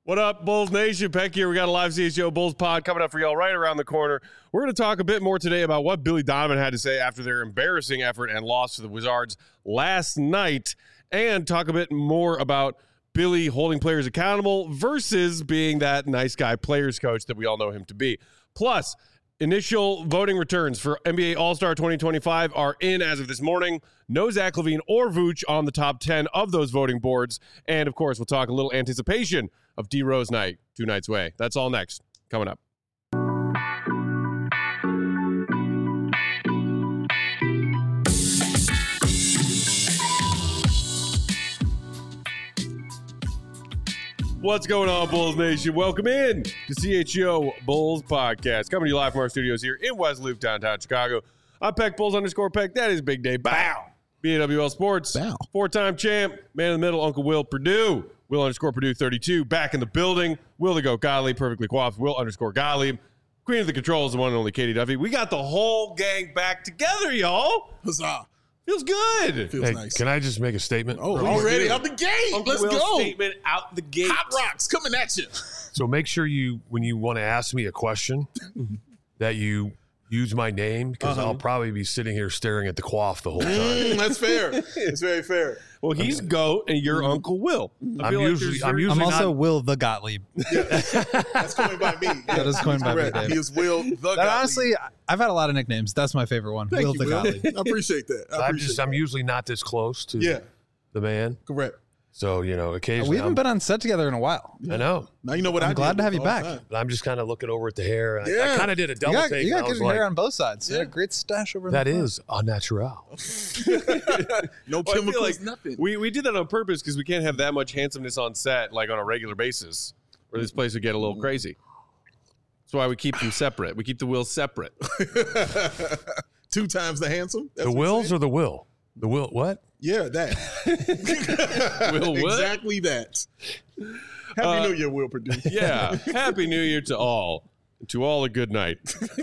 What up, Bulls Nation? Peck here. We got a live CHGO Bulls pod coming up for y'all right around the corner. We're going to talk a bit more today about what Billy Donovan had to say after their embarrassing effort and loss to the Wizards last night, and talk a bit more about Billy holding players accountable versus being that nice guy players coach that we all know him to be. Plus, initial voting returns for NBA All-Star 2025 are in as of this morning. No Zach LaVine or Vooch on the top 10 of those voting boards. And, of course, we'll talk a little anticipation of D Rose night 2 nights away. That's all next. Coming up. What's going on, Bulls Nation? Welcome in to CHGO Bulls Podcast. Coming to you live from our studios here in West Loop, downtown Chicago. I'm Peck Bulls _Peck. That is Big Day. Bow. BAWL Sports. Bow. 4-time champ. Man in the middle, Uncle Will Purdue. Will _Purdue 32. Back in the building. Will the Goat Gottlieb. Perfectly coiffed. Will _Gottlieb. Queen of the controls, the one and only Katie Duffy. We got the whole gang back together, y'all. Huzzah. Feels good. Feels nice. Can I just make a statement? Oh, already out the gate. Uncle Let's Will's go. statement out the gate. Hot rocks coming at you. So make sure when you want to ask me a question, that you use my name, because I'll probably be sitting here staring at the quaff the whole time. That's fair. It's very fair. Well, he's Goat and you're Uncle Will. I'm usually I'm also not, Will the Gottlieb. That's coined by me. That is coined by me, Correct. Dave. He is Will the Gottlieb. Honestly, I've had a lot of nicknames. That's my favorite one. Thank Will you, the Will. Gottlieb. I appreciate that. I'm usually not this close to the man. Correct. So, occasionally. We haven't been on set together in a while. I know. Now you know what I'm glad to have you back. But I'm just kind of looking over at the hair. Yeah. I kind of did a You double got, take. you and got I was good like, hair on both sides. Yeah, great stash over in that the front. is au natural. No Well, I feel chemicals, like nothing. We did that on purpose because we can't have that much handsomeness on set, like on a regular basis, or this place would get a little crazy. That's why we keep them separate. We keep the Wills separate. 2 times the handsome. That's The what Wills you're saying? or the Will? The Will, what? Yeah, that. Will what? Exactly that. Happy New Year, Will Purdue. Yeah. Happy New Year to all. To all a good night.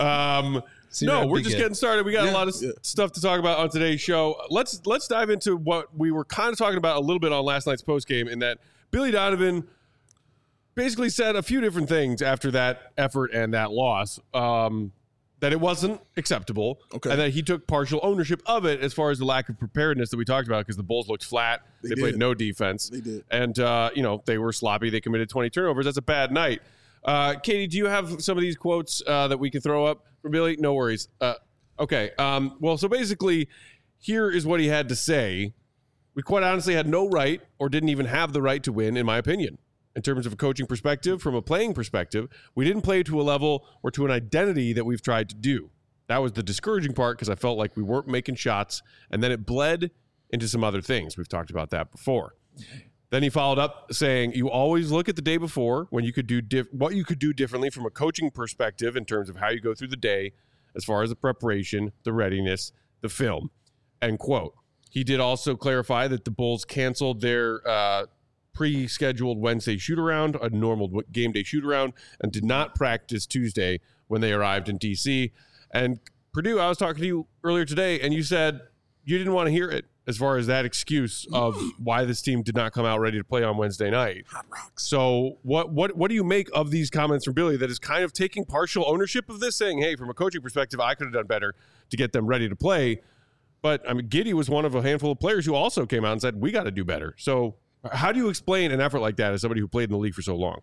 No, we're just getting started. We got a lot of stuff to talk about on today's show. Let's dive into what we were kind of talking about a little bit on last night's postgame, in that Billy Donovan basically said a few different things after that effort and that loss. That it wasn't acceptable, and that he took partial ownership of it as far as the lack of preparedness that we talked about, because the Bulls looked flat. They played no defense. They did. And, they were sloppy. They committed 20 turnovers. That's a bad night. Katie, do you have some of these quotes that we can throw up for Billy? No worries. Okay. Well, so basically, here is what he had to say. We quite honestly had no right, or didn't even have the right to win, in my opinion. In terms of a coaching perspective, from a playing perspective, we didn't play to a level or to an identity that we've tried to do. That was the discouraging part, because I felt like we weren't making shots, and then it bled into some other things. We've talked about that before. Then he followed up saying, you always look at the day before when you could do what you could do differently from a coaching perspective in terms of how you go through the day, as far as the preparation, the readiness, the film, end quote. He did also clarify that the Bulls canceled their pre-scheduled Wednesday shoot-around, a normal game day shoot-around, and did not practice Tuesday when they arrived in D.C. And Purdue, I was talking to you earlier today, and you said you didn't want to hear it as far as that excuse of why this team did not come out ready to play on Wednesday night. Hot rocks. So what do you make of these comments from Billy that is kind of taking partial ownership of this, saying, hey, from a coaching perspective, I could have done better to get them ready to play? But, I mean, Giddey was one of a handful of players who also came out and said, we got to do better. So how do you explain an effort like that as somebody who played in the league for so long?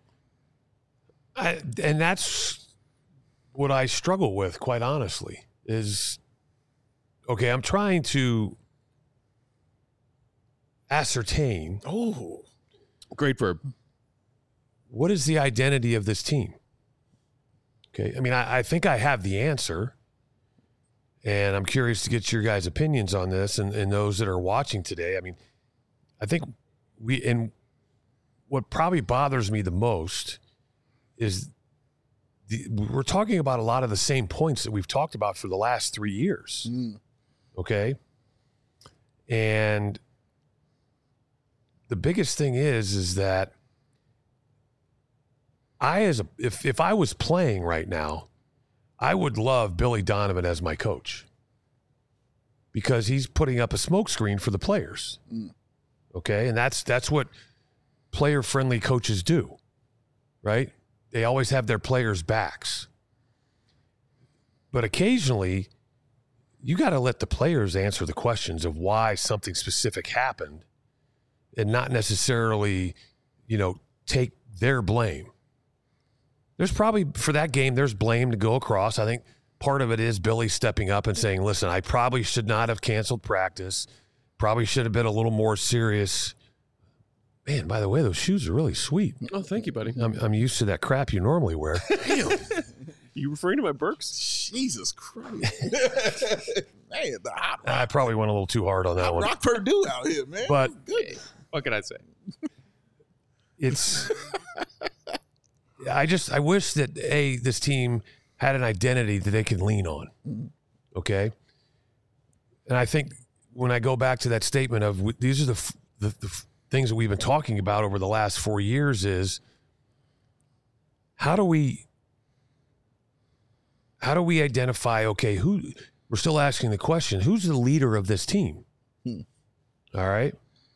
And that's what I struggle with, quite honestly, is, okay, I'm trying to ascertain. Oh, great verb. What is the identity of this team? Okay, I mean, I think I have the answer, and I'm curious to get your guys' opinions on this and those that are watching today. I mean, I think what probably bothers me the most is we're talking about a lot of the same points that we've talked about for the last 3 years. Okay? And the biggest thing is that if I was playing right now, I would love Billy Donovan as my coach, because he's putting up a smokescreen for the players. Okay? And that's what player-friendly coaches do. right? They always have their players' backs. But occasionally, you got to let the players answer the questions of why something specific happened and not necessarily, take their blame. There's probably, for that game, there's blame to go across. I think part of it is Billy stepping up and saying, listen, I probably should not have canceled practice. Probably should have been a little more serious. Man, by the way, those shoes are really sweet. Oh, thank you, buddy. I'm used to that crap you normally wear. Damn. You referring to my Birks? Jesus Christ. Man, the hot I probably went a little too hard on that one. rock Purdue out here, man. But What can I say? it's I wish that this team had an identity that they could lean on. Okay? And I think when I go back to that statement of these are the things that we've been talking about over the last 4 years is how do we identify, okay, we're still asking the question, who's the leader of this team? All right.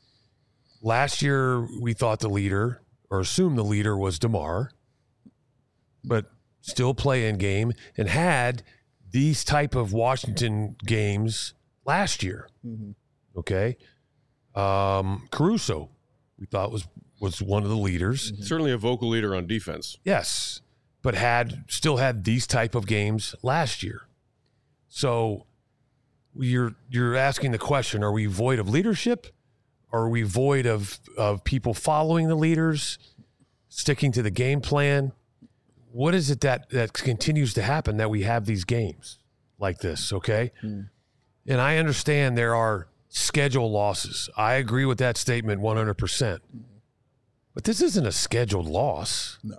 Last year, we thought the leader, or assumed the leader, was DeMar, but still play in game and had these type of Washington games last year. Okay. Caruso, we thought was one of the leaders. Certainly a vocal leader on defense. Yes, but still had these type of games last year. So you're asking the question, are we void of leadership? Are we void of people following the leaders, sticking to the game plan? What is it that continues to happen that we have these games like this, okay? And I understand there are schedule losses. I agree with that statement 100%. But this isn't a scheduled loss. No.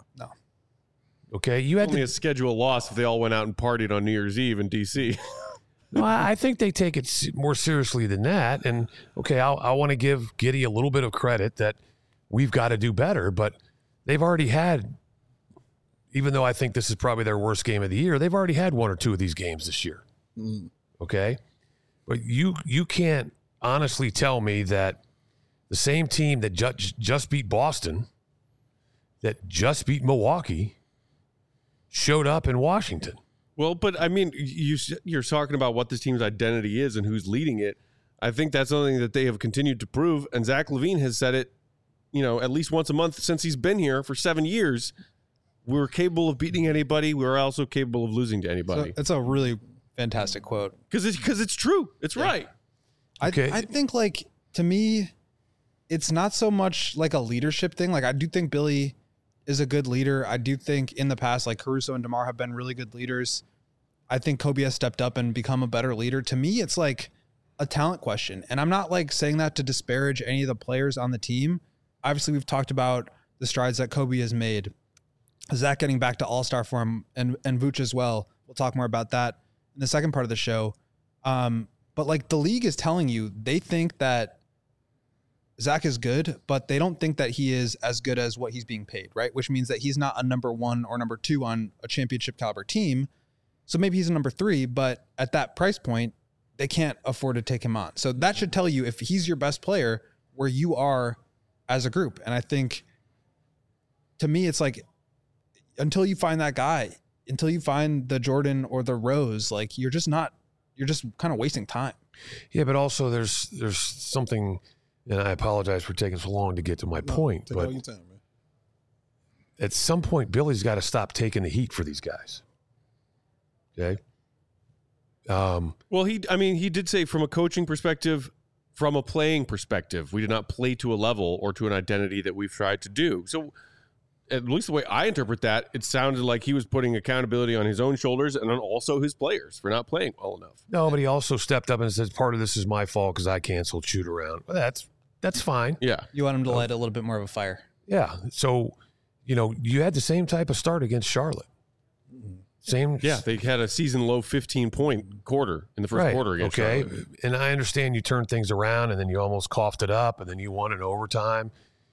Okay, you had Only a schedule loss if they all went out and partied on New Year's Eve in D.C. No, I think they take it more seriously than that. And, okay, I want to give Giddey a little bit of credit that we've got to do better, but they've already had, even though I think this is probably their worst game of the year, they've already had one or two of these games this year. Okay? But you can't honestly tell me that the same team that just beat Boston, that just beat Milwaukee, showed up in Washington. Well, but I mean, you're talking about what this team's identity is and who's leading it. I think that's something that they have continued to prove. And Zach LaVine has said it, at least once a month since he's been here for 7 years. We're capable of beating anybody. We're also capable of losing to anybody. So it's a really fantastic quote. Because it's true. It's right. Okay. I think, to me, it's not so much like a leadership thing. I do think Billy is a good leader. I do think in the past, Caruso and DeMar have been really good leaders. I think Kobe has stepped up and become a better leader. To me, it's like a talent question. And I'm not saying that to disparage any of the players on the team. Obviously, we've talked about the strides that Kobe has made. Zach getting back to all-star form and Vooch as well. We'll talk more about that in the second part of the show. But the league is telling you, they think that Zach is good, but they don't think that he is as good as what he's being paid, right? Which means that he's not a number 1 or number 2 on a championship caliber team. So maybe he's a number 3, but at that price point, they can't afford to take him on. So that should tell you if he's your best player, where you are as a group. And I think, to me, it's until you find that guy, until you find the Jordan or the Rose, you're just kind of wasting time. Yeah, but also there's something, and I apologize for taking so long to get to my point, Take but all your time, man. at some point, Billy's got to stop taking the heat for these guys. Okay? Well, he did say from a coaching perspective, from a playing perspective, we did not play to a level or to an identity that we've tried to do. So at least the way I interpret that, it sounded like he was putting accountability on his own shoulders and on also his players for not playing well enough. No, but he also stepped up and said, part of this is my fault because I canceled shoot around. Well, that's fine. Yeah. You want him to light a little bit more of a fire. Yeah. So, you had the same type of start against Charlotte. Same. Yeah, they had a season low 15-point quarter in the first quarter against Charlotte. And I understand you turned things around and then you almost coughed it up and then you won in overtime.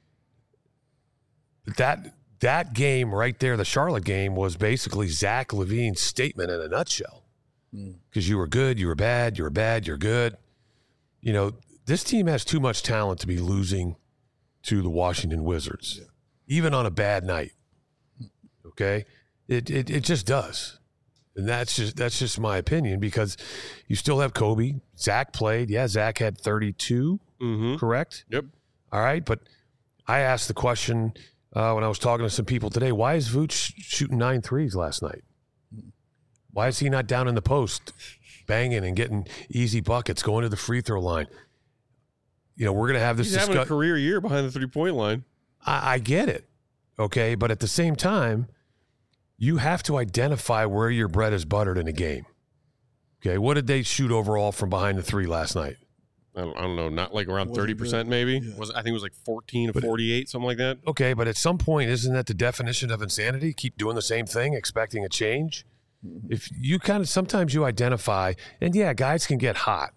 But that game right there, the Charlotte game, was basically Zach LaVine's statement in a nutshell. Because you were good, you were bad, you were bad, you're good. This team has too much talent to be losing to the Washington Wizards, even on a bad night. Okay, it just does, and that's just my opinion because you still have Kobe. Zach played. Yeah, Zach had 32. Correct. Yep. All right, but I asked the question when I was talking to some people today. Why is Vooch shooting 9 threes last night? Why is he not down in the post, banging and getting easy buckets, going to the free throw line? You know, we're going to have this He's having a career year behind the 3-point line. I get it, okay? But at the same time, you have to identify where your bread is buttered in a game. Okay, what did they shoot overall from behind the three last night? I don't know, not like around 30% maybe? Yeah. I think it was like 14 to 48, something like that. Okay, but at some point, isn't that the definition of insanity? Keep doing the same thing, expecting a change? If you sometimes you identify, and yeah, guys can get hot.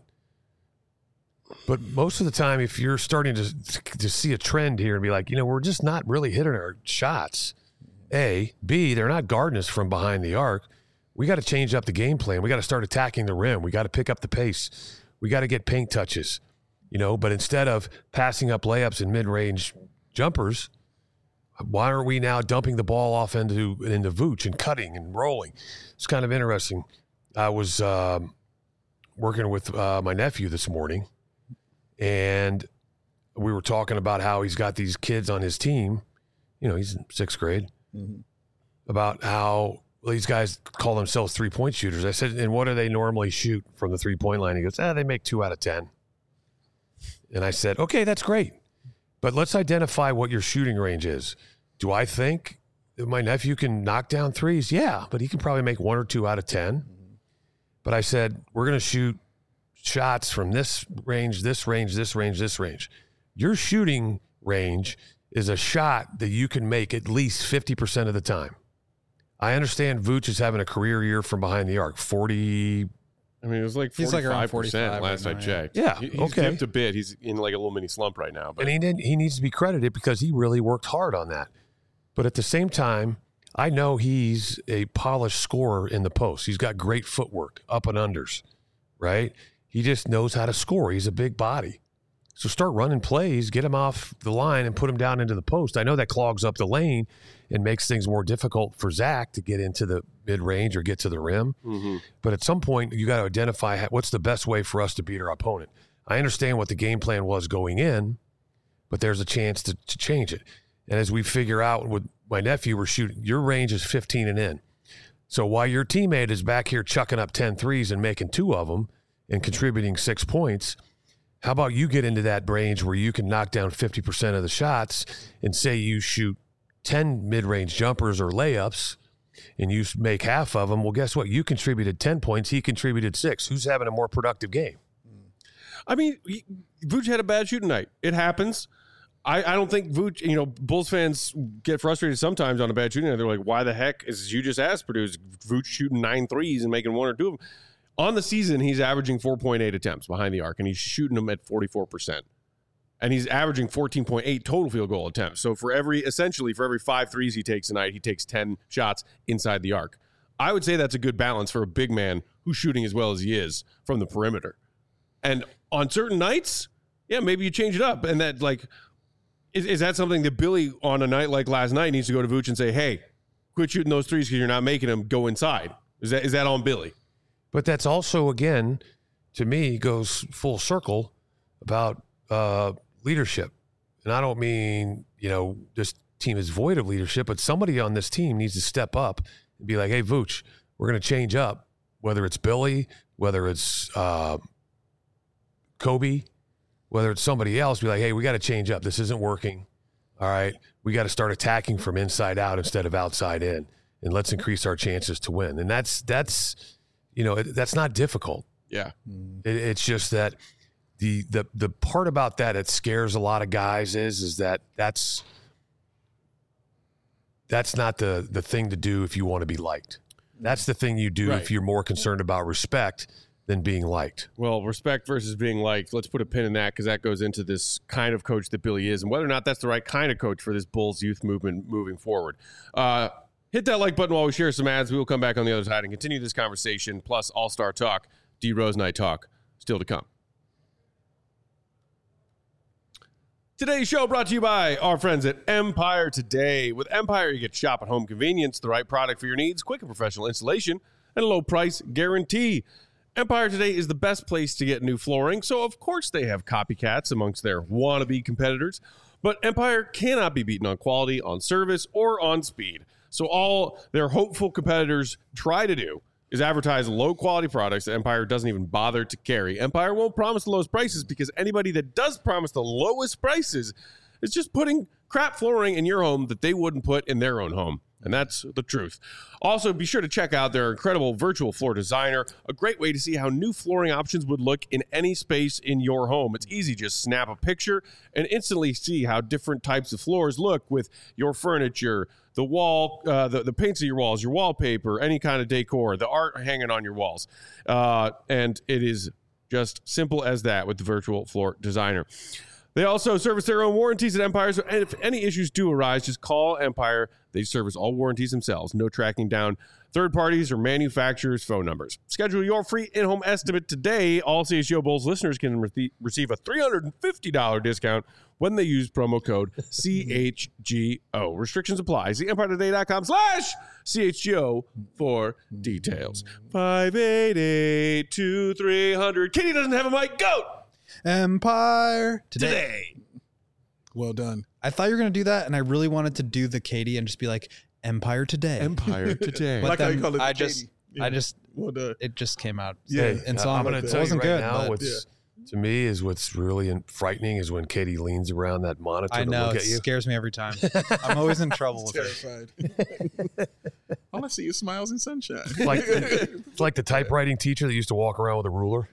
But most of the time, if you're starting to see a trend here and be like, we're just not really hitting our shots, A. B, they're not guarding us from behind the arc. We got to change up the game plan. We got to start attacking the rim. We got to pick up the pace. We got to get paint touches, but instead of passing up layups and mid-range jumpers, why aren't we now dumping the ball off into Vooch and cutting and rolling? It's kind of interesting. I was working with my nephew this morning, and we were talking about how he's got these kids on his team. He's in 6th grade. About how these guys call themselves 3-point shooters. I said, and what do they normally shoot from the 3-point line? He goes, they make 2 out of 10. And I said, okay, that's great. But let's identify what your shooting range is. Do I think that my nephew can knock down threes? Yeah, but he can probably make 1 or 2 out of 10. But I said, we're going to shoot shots from this range, this range, this range, this range. Your shooting range is a shot that you can make at least 50% of the time. I understand Vooch is having a career year from behind the arc, 40. I mean, it was like 45% He's like around 45 last right I now, checked. Yeah, He's okay. dipped a bit. He's in like a little mini slump right now. But And he needs to be credited because he really worked hard on that. But at the same time, I know he's a polished scorer in the post. He's got great footwork, up and unders, right? He just knows how to score. He's a big body. So start running plays, get him off the line and put him down into the post. I know that clogs up the lane and makes things more difficult for Zach to get into the mid-range or get to the rim. But at some point, you got to identify what's the best way for us to beat our opponent. I understand what the game plan was going in, but there's a chance to change it. And as we figure out with my nephew, we're shooting, your range is 15 and in. So while your teammate is back here chucking up 10 threes and making 2 of them and contributing 6 points, how about you get into that range where you can knock down 50% of the shots and say you shoot 10 mid-range jumpers or layups and you make half of them? Well, guess what? You contributed 10 points. He contributed 6. Who's having a more productive game? I mean, Vooch had a bad shooting night. It happens. I don't think Vooch, Bulls fans get frustrated sometimes on a bad shooting night. They're like, why the heck, as you just asked, Purdue, is Vooch shooting 9 threes and making 1 or 2 of them? On the season, he's averaging 4.8 attempts behind the arc, and he's shooting them at 44%. And he's averaging 14.8 total field goal attempts. So for every 5 threes he takes tonight, he takes 10 shots inside the arc. I would say that's a good balance for a big man who's shooting as well as he is from the perimeter. And on certain nights, yeah, maybe you change it up. And that, is that something that Billy, on a night like last night, needs to go to Vooch and say, hey, quit shooting those threes because you're not making them, go inside? Is that on Billy? But that's also, again, to me, goes full circle about leadership. And I don't mean, this team is void of leadership, but somebody on this team needs to step up and be like, hey, Vooch, we're going to change up, whether it's Billy, whether it's Kobe, whether it's somebody else, be like, hey, we got to change up. This isn't working. All right. We got to start attacking from inside out instead of outside in, and let's increase our chances to win. And that's not difficult. Yeah. It's just that the part about that scares a lot of guys is that that's not the thing to do if you want to be liked. That's the thing you do if you're more concerned about respect than being liked. Well, respect versus being liked. Let's put a pin in that because that goes into this kind of coach that Billy is and whether or not that's the right kind of coach for this Bulls youth movement moving forward. Hit that like button while we share some ads. We will come back on the other side and continue this conversation, plus All-Star Talk, D. Rose Night Talk, still to come. Today's show brought to you by our friends at Empire Today. With Empire, you get shop at home convenience, the right product for your needs, quick and professional installation, and a low price guarantee. Empire Today is the best place to get new flooring, so of course they have copycats amongst their wannabe competitors. But Empire cannot be beaten on quality, on service, or on speed. So all their hopeful competitors try to do is advertise low-quality products that Empire doesn't even bother to carry. Empire won't promise the lowest prices because anybody that does promise the lowest prices is just putting crap flooring in your home that they wouldn't put in their own home. And that's the truth. Also, be sure to check out their incredible virtual floor designer, a great way to see how new flooring options would look in any space in your home. It's easy, just snap a picture and instantly see how different types of floors look with your furniture, the wall, the paints of your walls, your wallpaper, any kind of decor, the art hanging on your walls. And it is just simple as that with the virtual floor designer. They also service their own warranties at Empire, so if any issues do arise, just call Empire. They service all warranties themselves. No tracking down third parties or manufacturers' phone numbers. Schedule your free in-home estimate today. All CHGO Bulls listeners can receive a $350 discount when they use promo code CHGO. Restrictions apply. See EmpireToday.com/CHGO for details. 588-2300. Katie doesn't have a mic. Go! Empire Today. Well done. I thought you were going to do that, and I really wanted to do the Katie and just be like, Empire Today. Empire Today. But Like how you then call it the I Katie. just, Yeah. I just, Well done. it just came out. Yeah. And so I'm going to tell you wasn't right good. now but what's to me is what's really frightening is when Katie leans around that monitor I to know look it at you. scares me every time. I'm always in trouble with her. Terrified. All I see is smiles and sunshine. It's like the typewriting teacher that used to walk around with a ruler.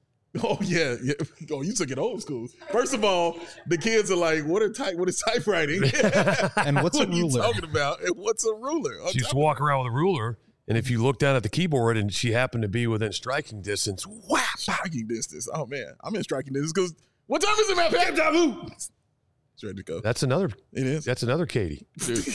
Oh yeah. Oh, you took it old school. First of all, the kids are like, "What is typewriting? And what's what a are you ruler? talking about? And what's a ruler?" She used to walk around with a ruler, and if you look down at the keyboard and she happened to be within striking distance, whap! Striking distance. Oh man, I'm in striking distance because what time is it, man? Game time. It's ready to go. That's another It is. another Katie. Dude,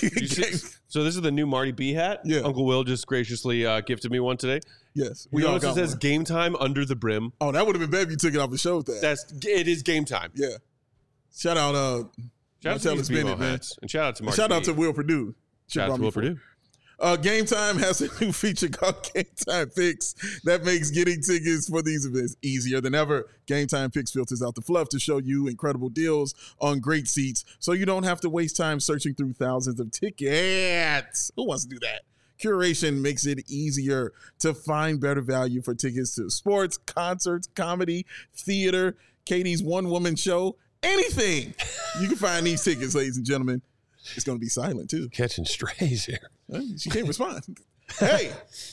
so this is the new Marty B hat. Yeah. Uncle Will just graciously gifted me one today. Yes. We all notice it got says one. game time under the brim. Oh, that would have been better if you took it off the show with that. It is game time. Yeah. Shout out Shout out to Martellus these BMO Bennett, man. hats. And shout out to Marty Shout out B. to Will Purdue. Shout out to Will Purdue. Game Time has a new feature called Game Time Picks that makes getting tickets for these events easier than ever. Game Time Picks filters out the fluff to show you incredible deals on great seats so you don't have to waste time searching through thousands of tickets. Who wants to do that? Curation makes it easier to find better value for tickets to sports, concerts, comedy, theater, Katie's one-woman show, anything. You can find these tickets, ladies and gentlemen. It's going to be silent, too. Catching strays here. She can't respond. Hey,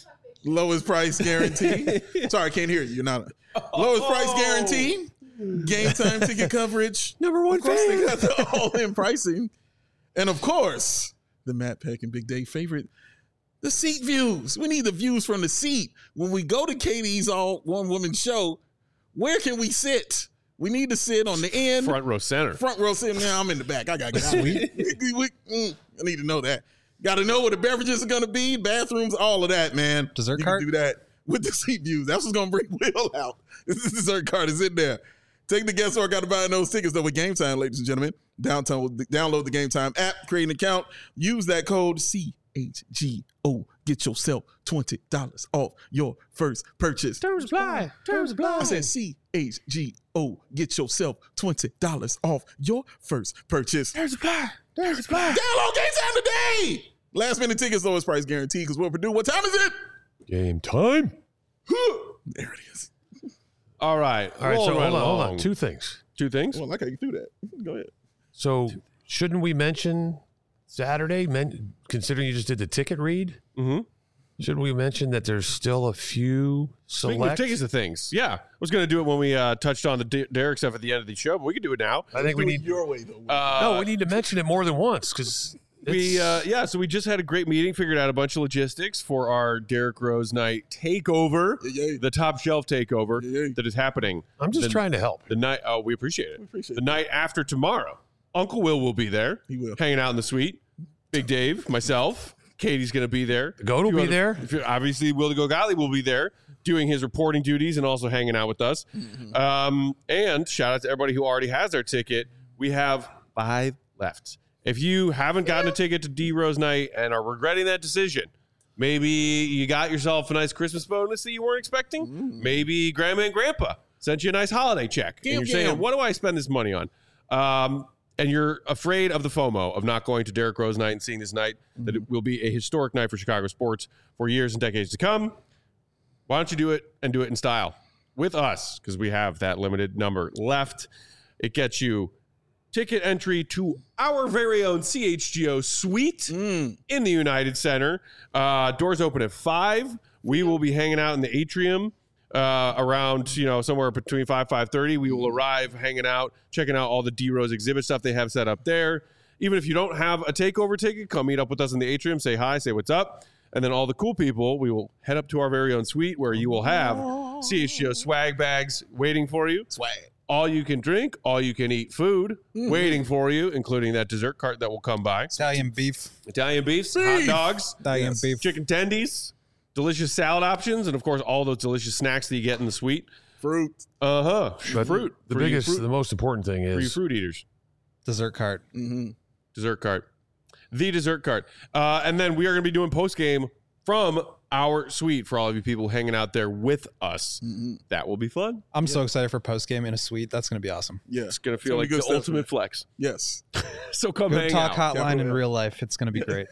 lowest price guarantee. Sorry, I can't hear you. You're not. Lowest price guarantee. Game time ticket coverage. Number one Of course, fan. they got the all-in pricing. And of course, the Matt Peck and Big Dave favorite, the seat views. We need the views from the seat. When we go to Katie's all one-woman show, where can we sit? We need to sit on the end. Front row center. Front row sitting there. I'm in the back. I got to get out. I need to know that. Got to know where the beverages are going to be, bathrooms, all of that, man. Dessert you cart? can do that with the seat views. That's what's going to bring Will out. This dessert cart is in there. Take the guesswork out of buying those tickets, though, with Game Time, ladies and gentlemen. Download the Game Time app, create an account, use that code CHGO. Get yourself $20 off your first purchase. Terms apply. Terms apply. I said CHGO. Get yourself $20 off your first purchase. Terms apply. Terms apply. Download Game Time today. Last minute tickets, lowest price guarantee. Because Will Purdue, what time is it? Game time. There it is. All right. All right, so Rolling hold on. along. Two things. Two things. Well, I like how you threw that. Go ahead. So shouldn't we mention Saturday, considering you just did the ticket read? Mm-hmm. Shouldn't we mention that there's still a few Speaking select? of tickets to things, yeah. I was going to do it when we touched on the Derek stuff at the end of the show, but we can do it now. I think we Do it need. your way, though. No, we need to mention it more than once because So we just had a great meeting, figured out a bunch of logistics for our Derek Rose night takeover, Yeah. the top shelf takeover Yeah. that is happening. I'm just trying to help. The night, we appreciate it. appreciate the night after tomorrow, Uncle Will be there. He will. Hanging out in the suite. Big Dave, myself, Katie's going to be there. The goat will be there. Obviously, Will the Go Golly will be there doing his reporting duties and also hanging out with us. Mm-hmm. And shout out to everybody who already has their ticket. We have 5 left. If you haven't gotten a ticket to D Rose Night and are regretting that decision, maybe you got yourself a nice Christmas bonus that you weren't expecting. Maybe Grandma and Grandpa sent you a nice holiday check. And you're saying, what do I spend this money on? And you're afraid of the FOMO of not going to Derrick Rose Night and seeing this night, that it will be a historic night for Chicago sports for years and decades to come. Why don't you do it and do it in style with us? Because we have that limited number left. It gets you ticket entry to our very own CHGO suite in the United Center. Doors open at 5. We will be hanging out in the atrium around, somewhere between 5:30. We will arrive, hanging out, checking out all the D Rose exhibit stuff they have set up there. Even if you don't have a takeover ticket, come meet up with us in the atrium, say hi, say what's up. And then all the cool people, we will head up to our very own suite where you will have CHGO swag bags waiting for you. Swag. All you can drink, all you can eat food waiting for you, including that dessert cart that will come by. Italian beef. Italian beefs, hot dogs, Italian beef. chicken tendies, delicious salad options, and of course all those delicious snacks that you get in the suite. Fruit. But Fruit. The most important thing For you is fruit eaters. Dessert cart. Dessert cart. The dessert cart. And then we are going to be doing post game from our suite for all of you people hanging out there with us. That will be fun. I'm so excited for post game in a suite. That's going to be awesome. Yeah. It's going to feel like good the stuff, ultimate man. flex. Yes. So come Good hang talk out. hotline in Capital. real life. It's going to be great.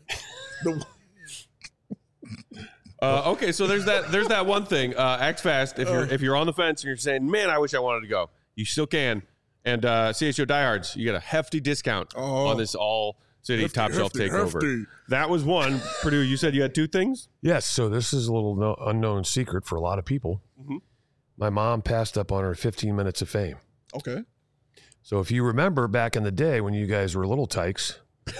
Okay, so there's that one thing. Act fast. If you're on the fence and you're saying, man, I wish I wanted to go, you still can. And CHGO Diehards, you get a hefty discount on this all city top shelf takeover. hefty. That was one. Purdue, you said you had 2 things? yes. So this is a little unknown secret for a lot of people. My mom passed up on her 15 minutes of fame. Okay. So if you remember back in the day when you guys were little tykes,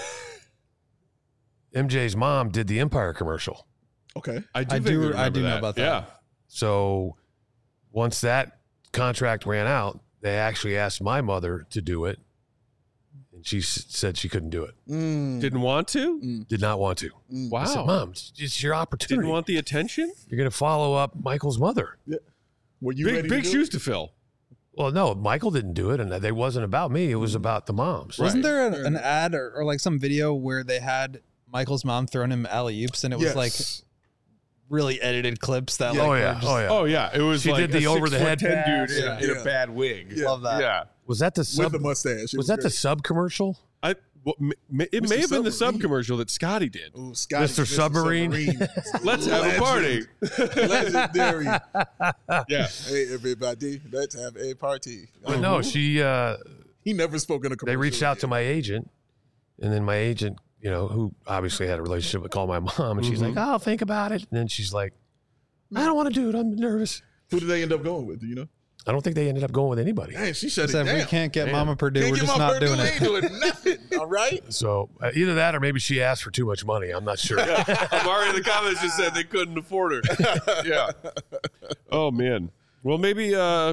MJ's mom did the Empire commercial. Okay. I do know about that. Yeah. So once that contract ran out, they actually asked my mother to do it. And she said she couldn't do it. Didn't want to? Did not want to. Wow. I said, Mom, it's your opportunity. Didn't want the attention? You're going to follow up Michael's mother. Were you ready Big to do shoes it? to fill. Well, no, Michael didn't do it. And it wasn't about me. It was about the moms. Wasn't there an ad or like some video where they had Michael's mom throwing him alley-oops and it was like really edited clips that Oh, like yeah. were just- Oh, yeah. Oh, yeah. It was She like did the a over-the-head 6'10" pass. dude in a bad wig. Yeah. Love that. Yeah. Was that the With sub? the mustache. Was that the sub commercial? It may Mr. have been the sub Submarine. commercial that Scotty did. Ooh, Scotty, Mr. Submarine. Let's have a party. Legendary. Yeah. Hey, everybody, let's have a party. But no, she. He never spoke in a commercial. They reached out to my agent, and then my agent, who obviously had a relationship with, called my mom, and she's like, "I'll think about it." And then she's like, "I don't want to do it. I'm nervous." Who did they end up going with? Do you know? I don't think they ended up going with anybody. Dang, she shut it Said down. we can't get Mama Purdue. Can't We're get just my not Purdue, doing ain't it. doing nothing. All right. So either that, or maybe she asked for too much money. I'm not sure. Amari in the comments just said they couldn't afford her. Yeah. Oh, man. Well, maybe, I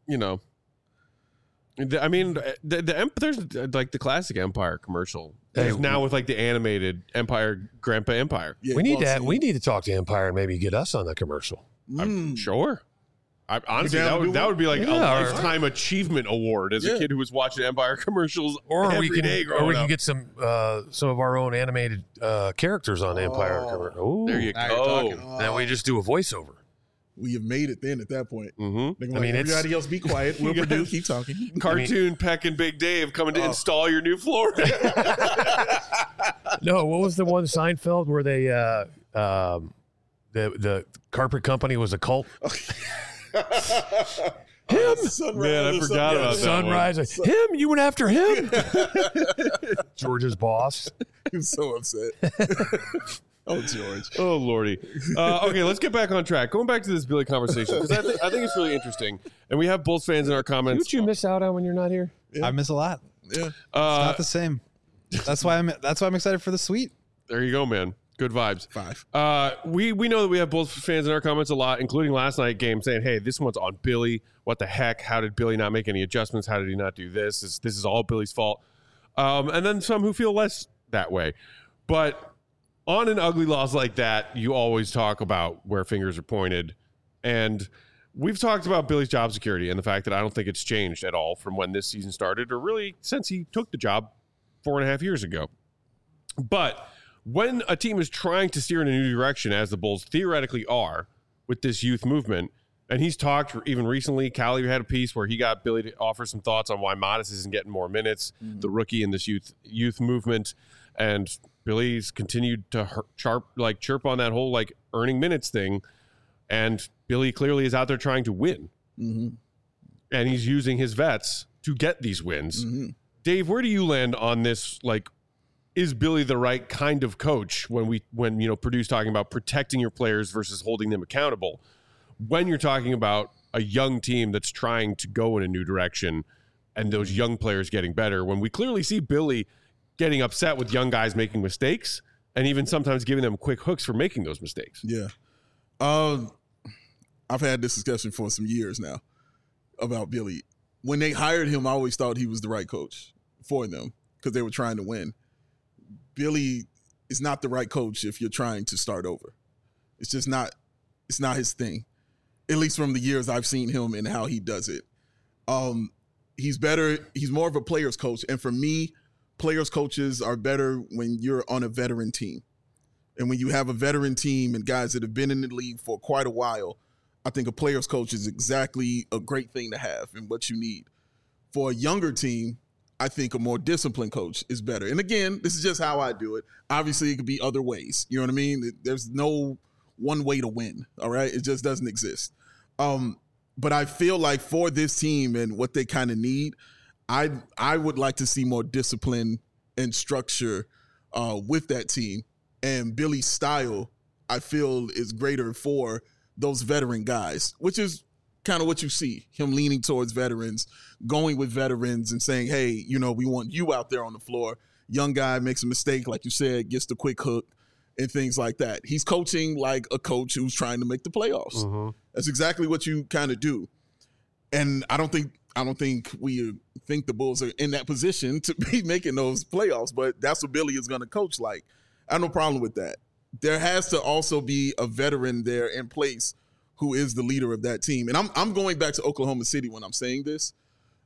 mean, there's like the classic Empire commercial. Hey, There's now with like the animated Empire, Grandpa Empire. Yeah, we need well, to. see, We need to talk to Empire and maybe get us on the commercial. I'm sure. Honestly, down to do that would be like a Yeah, or- lifetime achievement award as a Yeah. kid who was watching Empire commercials Or every we day can, growing up. get some of our own animated characters on Empire. Ooh. There you Now you're go. talking. Then we just do a voiceover. We have made it then at that point. Mm-hmm. They're gonna I mean, like, it's- everybody else be quiet. We'll You Purdue guys- keep talking. Cartoon Peck and Big Dave coming to install your new floor. No, what was the one Seinfeld where they the carpet company was a cult? Sunrise Man, I or forgot about that. Sunrise. Him? You went after him? George's boss. He was so upset. Oh, George. Oh, Lordy. Okay, let's get back on track. Going back to this Billy conversation, because I think it's really interesting. And we have Bulls fans in our comments. What you miss out on when you're not here? Yeah. I miss a lot. Yeah. It's not the same. That's why I'm excited for the suite. There you go, man. Good vibes. 5. We know that we have Bulls fans in our comments a lot, including last night game, saying, "Hey, this one's on Billy. What the heck? How did Billy not make any adjustments? How did he not do this? This is all Billy's fault." And then some who feel less that way. But on an ugly loss like that, you always talk about where fingers are pointed. And we've talked about Billy's job security and the fact that I don't think it's changed at all from when this season started, or really since he took the job 4.5 years ago. But when a team is trying to steer in a new direction, as the Bulls theoretically are with this youth movement, and he's talked even recently, Callie had a piece where he got Billy to offer some thoughts on why Modest isn't getting more minutes, the rookie in this youth movement, and Billy's continued to chirp on that whole like earning minutes thing, and Billy clearly is out there trying to win, and he's using his vets to get these wins. Dave, where do you land on this? Like, is Billy the right kind of coach when Purdue's talking about protecting your players versus holding them accountable? When you're talking about a young team that's trying to go in a new direction and those young players getting better, when we clearly see Billy getting upset with young guys making mistakes and even sometimes giving them quick hooks for making those mistakes. Yeah. I've had this discussion for some years now about Billy. When they hired him, I always thought he was the right coach for them because they were trying to win. Billy is not the right coach if you're trying to start over. It's just not, it's not his thing, at least from the years I've seen him and how he does it. He's better. He's more of a player's coach. And for me, players coaches are better when you're on a veteran team. And when you have a veteran team and guys that have been in the league for quite a while, I think a player's coach is exactly a great thing to have and what you need. For a younger team, I think a more disciplined coach is better. And again, this is just how I do it. Obviously, it could be other ways. You know what I mean? There's no one way to win, all right? It just doesn't exist. But I feel like for this team and what they kind of need, I would like to see more discipline and structure with that team. And Billy's style, I feel, is greater for those veteran guys, which is kind of what you see, him leaning towards veterans, going with veterans and saying, hey, you know, we want you out there on the floor. Young guy makes a mistake, like you said, gets the quick hook and things like that. He's coaching like a coach who's trying to make the playoffs. That's exactly what you kind of do. And I don't think we think the Bulls are in that position to be making those playoffs, but that's what Billy is going to coach like. I have no problem with that. There has to also be a veteran there in place who is the leader of that team. And I'm going back to Oklahoma City when I'm saying this.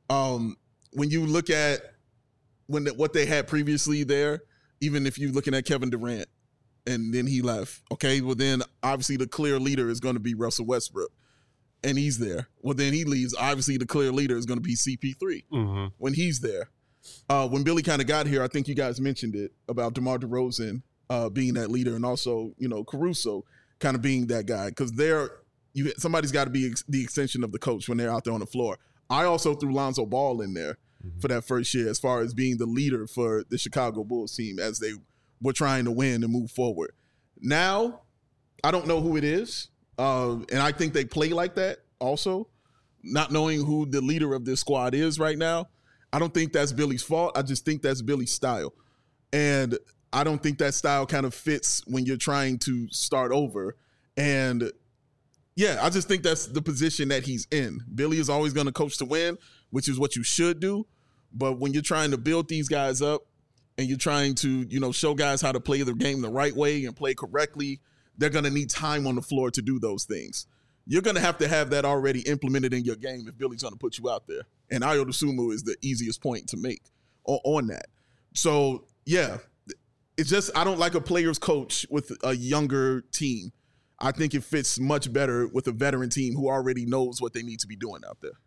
When you look at what they had previously there, even if you're looking at Kevin Durant and then he left, okay, well then obviously the clear leader is going to be Russell Westbrook. And he's there. Well, then he leaves. Obviously, the clear leader is going to be CP3 when he's there. When Billy kind of got here, I think you guys mentioned it about DeMar DeRozan being that leader, and also, you know, Caruso kind of being that guy, because somebody's got to be the extension of the coach when they're out there on the floor. I also threw Lonzo Ball in there for that first year as far as being the leader for the Chicago Bulls team as they were trying to win and move forward. Now, I don't know who it is. And I think they play like that also, not knowing who the leader of this squad is right now. I don't think that's Billy's fault. I just think that's Billy's style. And I don't think that style kind of fits when you're trying to start over. And yeah, I just think that's the position that he's in. Billy is always going to coach to win, which is what you should do. But when you're trying to build these guys up and you're trying to, you know, show guys how to play the game the right way and play correctly, they're going to need time on the floor to do those things. You're going to have that already implemented in your game if Billy's going to put you out there. And Ayo Dosunmu is the easiest point to make on that. So, yeah, it's just I don't like a player's coach with a younger team. I think it fits much better with a veteran team who already knows what they need to be doing out there.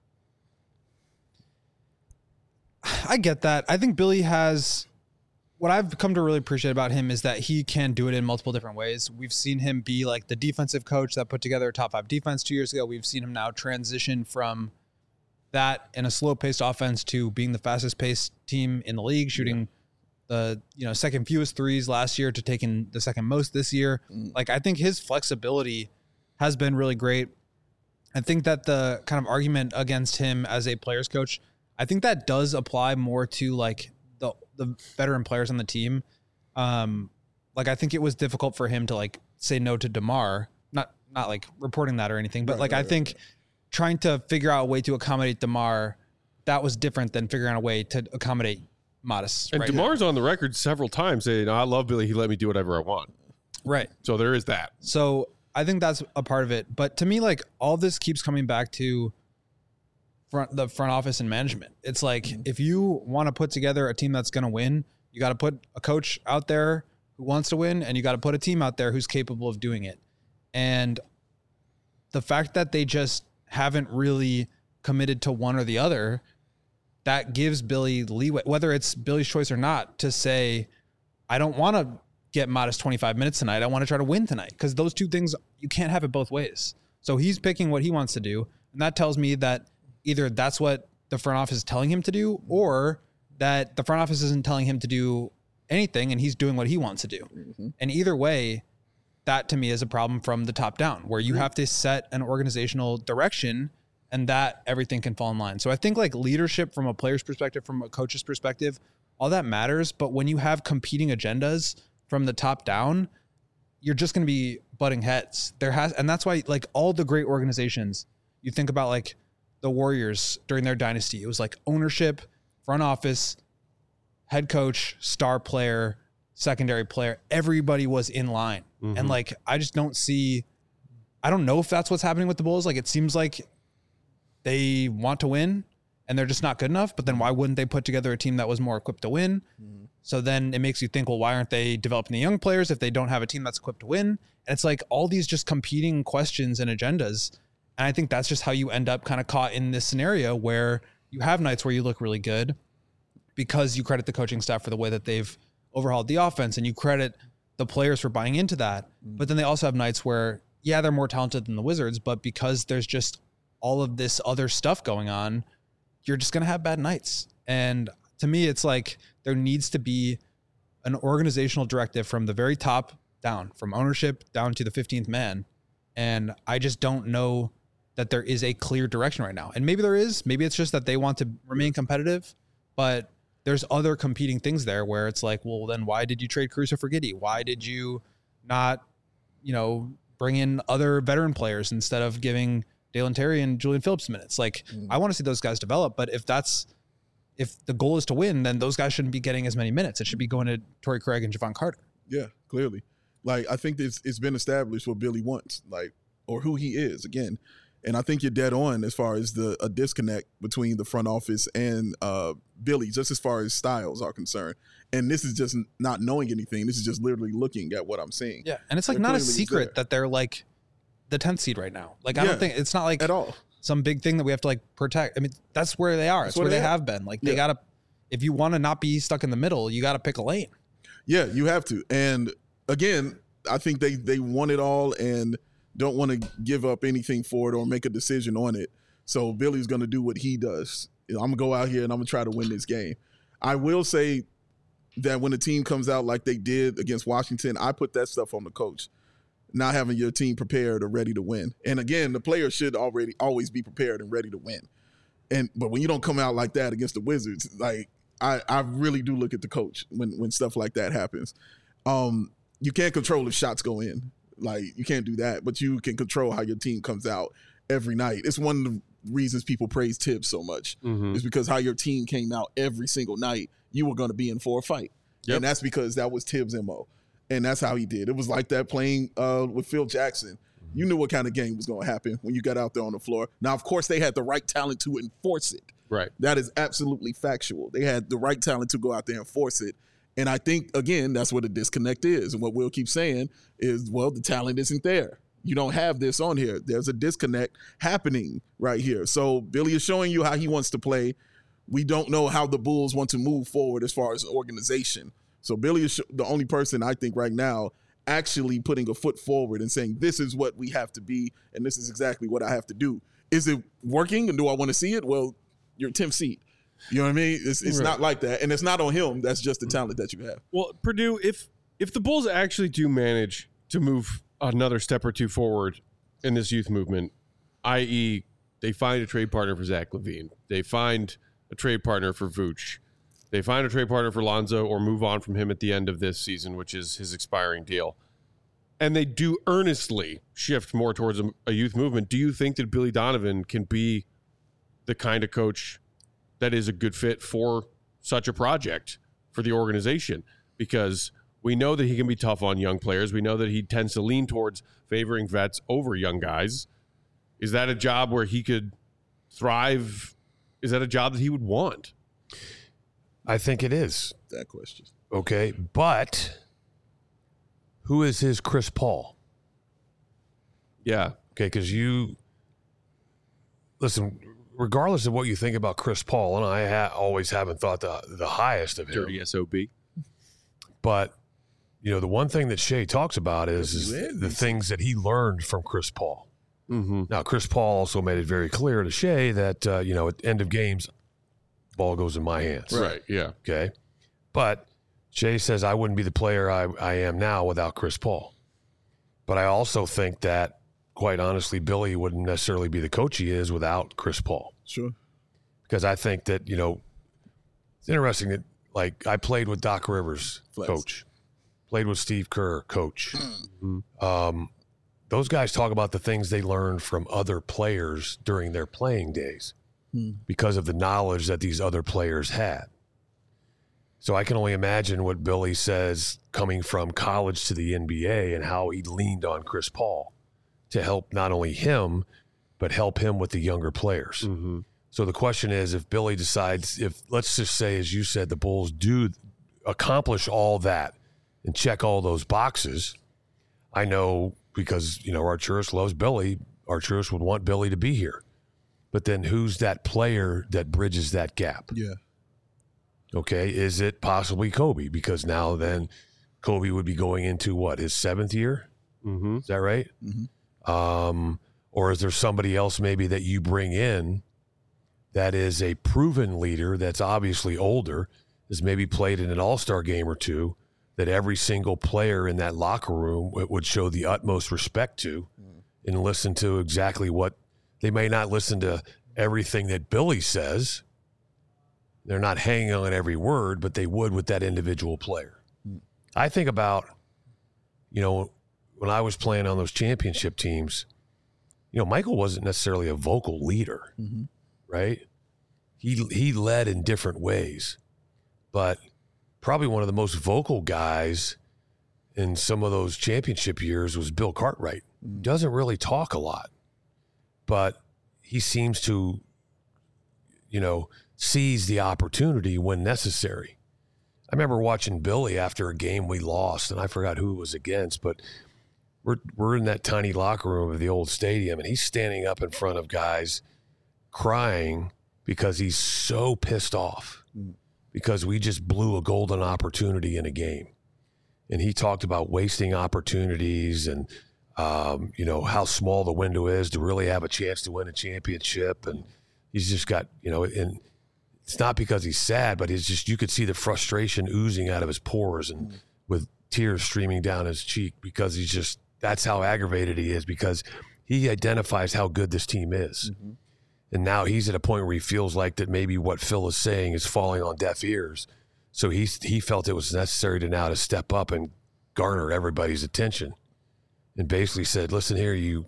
I get that. I think Billy has... What I've come to really appreciate about him is that he can do it in multiple different ways. We've seen him be like the defensive coach that put together a top 5 defense 2 years ago. We've seen him now transition from that in a slow-paced offense to being the fastest-paced team in the league, shooting the second fewest threes last year to taking the second most this year. Like, I think his flexibility has been really great. I think that the kind of argument against him as a player's coach, I think that does apply more to like the veteran players on the team. Like, I think it was difficult for him to like say no to DeMar, not like reporting that or anything, but I think trying to figure out a way to accommodate DeMar, that was different than figuring out a way to accommodate Modest. And DeMar's on the record several times saying, I love Billy. He let me do whatever I want. Right. So there is that. So I think that's a part of it. But to me, like, all this keeps coming back to the front office and management. It's like, if you want to put together a team that's going to win, you got to put a coach out there who wants to win, and you got to put a team out there who's capable of doing it. And the fact that they just haven't really committed to one or the other, that gives Billy leeway, whether it's Billy's choice or not, to say, I don't want to get modest 25 minutes tonight. I want to try to win tonight. Because those two things, you can't have it both ways. So he's picking what he wants to do. And that tells me that either that's what the front office is telling him to do, or that the front office isn't telling him to do anything and he's doing what he wants to do. Mm-hmm. And either way, that to me is a problem from the top down, where you have to set an organizational direction and that everything can fall in line. So I think like leadership from a player's perspective, from a coach's perspective, all that matters. But when you have competing agendas from the top down, you're just going to be butting heads. And that's why, like, all the great organizations, you think about like the Warriors during their dynasty, it was like ownership, front office, head coach, star player, secondary player, everybody was in line. Mm-hmm. And like, I just don't know if that's what's happening with the Bulls. Like, it seems like they want to win and they're just not good enough, but then why wouldn't they put together a team that was more equipped to win? Mm-hmm. So then it makes you think, well, why aren't they developing the young players if they don't have a team that's equipped to win? And it's like all these just competing questions and agendas. And I think that's just how you end up kind of caught in this scenario where you have nights where you look really good because you credit the coaching staff for the way that they've overhauled the offense, and you credit the players for buying into that. But then they also have nights where, yeah, they're more talented than the Wizards, but because there's just all of this other stuff going on, you're just going to have bad nights. And to me, it's like there needs to be an organizational directive from the very top down, from ownership down to the 15th man. And I just don't know that there is a clear direction right now. And maybe there is. Maybe it's just that they want to remain competitive, but there's other competing things there where it's like, well, then why did you trade Caruso for Giddey? Why did you not, bring in other veteran players instead of giving Dalen Terry and Julian Phillips minutes? Like, I want to see those guys develop, but if the goal is to win, then those guys shouldn't be getting as many minutes. It should be going to Torrey Craig and Javon Carter. Yeah, clearly. Like, I think it's been established what Billy wants, like, or who he is again. And I think you're dead on as far as a disconnect between the front office and Billy, just as far as styles are concerned. And this is just not knowing anything. This is just literally looking at what I'm seeing. Yeah, and it's like not a secret that they're like the 10th seed right now. Like, I don't think it's not like at all some big thing that we have to like protect. I mean, that's where they are. That's where they have been. Like, they got to, if you want to not be stuck in the middle, you got to pick a lane. Yeah, you have to. And again, I think they want it all and don't want to give up anything for it or make a decision on it. So Billy's going to do what he does. I'm going to go out here and I'm going to try to win this game. I will say that when a team comes out like they did against Washington, I put that stuff on the coach, not having your team prepared or ready to win. And again, the players should always be prepared and ready to win. But when you don't come out like that against the Wizards, like I really do look at the coach when stuff like that happens. You can't control if shots go in. Like, you can't do that, but you can control how your team comes out every night. It's one of the reasons people praise Tibbs so much, is because how your team came out every single night, you were going to be in for a fight. Yep. And that's because that was Tibbs' MO. And that's how he did. It was like that playing with Phil Jackson. You knew what kind of game was going to happen when you got out there on the floor. Now, of course, they had the right talent to enforce it. Right. That is absolutely factual. They had the right talent to go out there and force it. And I think, again, that's what the disconnect is. And what Will keeps saying is, well, the talent isn't there. You don't have this on here. There's a disconnect happening right here. So Billy is showing you how he wants to play. We don't know how the Bulls want to move forward as far as an organization. So Billy is the only person I think right now actually putting a foot forward and saying, this is what we have to be, and this is exactly what I have to do. Is it working, and do I want to see it? Well, you're 10th seed. You know what I mean? It's right. Not like that. And it's not on him. That's just the talent that you have. Well, Purdue, if the Bulls actually do manage to move another step or two forward in this youth movement, i.e. they find a trade partner for Zach LaVine, they find a trade partner for Vooch, they find a trade partner for Lonzo or move on from him at the end of this season, which is his expiring deal, and they do earnestly shift more towards a youth movement, do you think that Billy Donovan can be the kind of coach that is a good fit for such a project for the organization? Because We know that he can be tough on young players. We know that he tends to lean towards favoring vets over young guys. Is that a job where he could thrive? Is that a job that he would want? I think it is. That question. Okay, but who is his Chris Paul? Yeah. Okay, because listen, regardless of what you think about Chris Paul, and I always haven't thought the highest of him. Dirty SOB. But, the one thing that Shea talks about is the things that he learned from Chris Paul. Mm-hmm. Now, Chris Paul also made it very clear to Shea that, at the end of games, ball goes in my hands. Right, yeah. Okay. But Shea says, I wouldn't be the player I am now without Chris Paul. But I also think that, quite honestly, Billy wouldn't necessarily be the coach he is without Chris Paul. Sure. Because I think that, it's interesting that, like, I played with Doc Rivers, coach. Played with Steve Kerr, coach. Mm-hmm. Those guys talk about the things they learned from other players during their playing days because of the knowledge that these other players had. So I can only imagine what Billy says coming from college to the NBA and how he leaned on Chris Paul to help not only him, but help him with the younger players. Mm-hmm. So the question is, if Billy decides, let's just say, as you said, the Bulls do accomplish all that and check all those boxes, I know because, Arturas loves Billy, Arturas would want Billy to be here. But then who's that player that bridges that gap? Yeah. Okay, is it possibly Kobe? Because now then Kobe would be going into his 7th year? Mm-hmm. Is that right? Mm-hmm. Or is there somebody else maybe that you bring in that is a proven leader that's obviously older, has maybe played in an all-star game or two, that every single player in that locker room would show the utmost respect to and listen to exactly what they may not listen to everything that Billy says. They're not hanging on every word, but they would with that individual player. I think about, when I was playing on those championship teams, Michael wasn't necessarily a vocal leader, right? He led in different ways, but probably one of the most vocal guys in some of those championship years was Bill Cartwright. Doesn't really talk a lot, but he seems to, seize the opportunity when necessary. I remember watching Billy after a game we lost, and I forgot who it was against, but we're in that tiny locker room of the old stadium, and he's standing up in front of guys crying because he's so pissed off because we just blew a golden opportunity in a game. And he talked about wasting opportunities and, how small the window is to really have a chance to win a championship. And he's just got, and it's not because he's sad, but it's just, you could see the frustration oozing out of his pores and with tears streaming down his cheek because that's how aggravated he is, because he identifies how good this team is. Mm-hmm. And now he's at a point where he feels like that maybe what Phil is saying is falling on deaf ears. So he felt it was necessary to step up and garner everybody's attention and basically said, listen here, you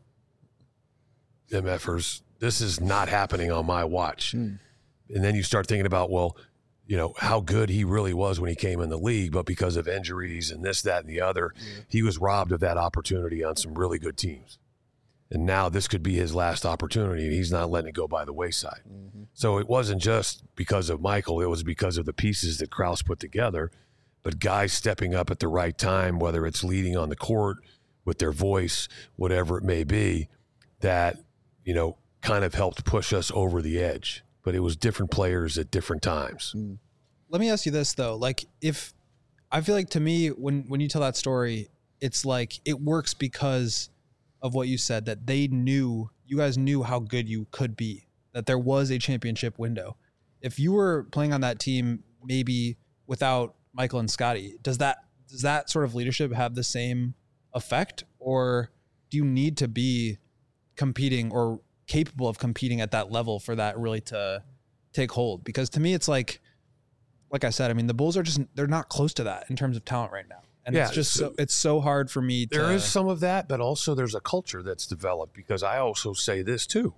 MFers, this is not happening on my watch. And then you start thinking about, how good he really was when he came in the league, but because of injuries and this, that, and the other, he was robbed of that opportunity on some really good teams. And now this could be his last opportunity, and he's not letting it go by the wayside. Mm-hmm. So it wasn't just because of Michael. It was because of the pieces that Krause put together, but guys stepping up at the right time, whether it's leading on the court with their voice, whatever it may be, that, kind of helped push us over the edge. But it was different players at different times. Let me ask you this, though. Like, if I feel like to me, when you tell that story, it's like it works because of what you said, that you guys knew how good you could be, that there was a championship window. If you were playing on that team, maybe without Michael and Scotty, does that sort of leadership have the same effect, or do you need to be competing or capable of competing at that level for that really to take hold? Because to me, it's like I said, I mean, the Bulls they're not close to that in terms of talent right now. And it's just it's so hard for me to... There is some of that, but also there's a culture that's developed, because I also say this too.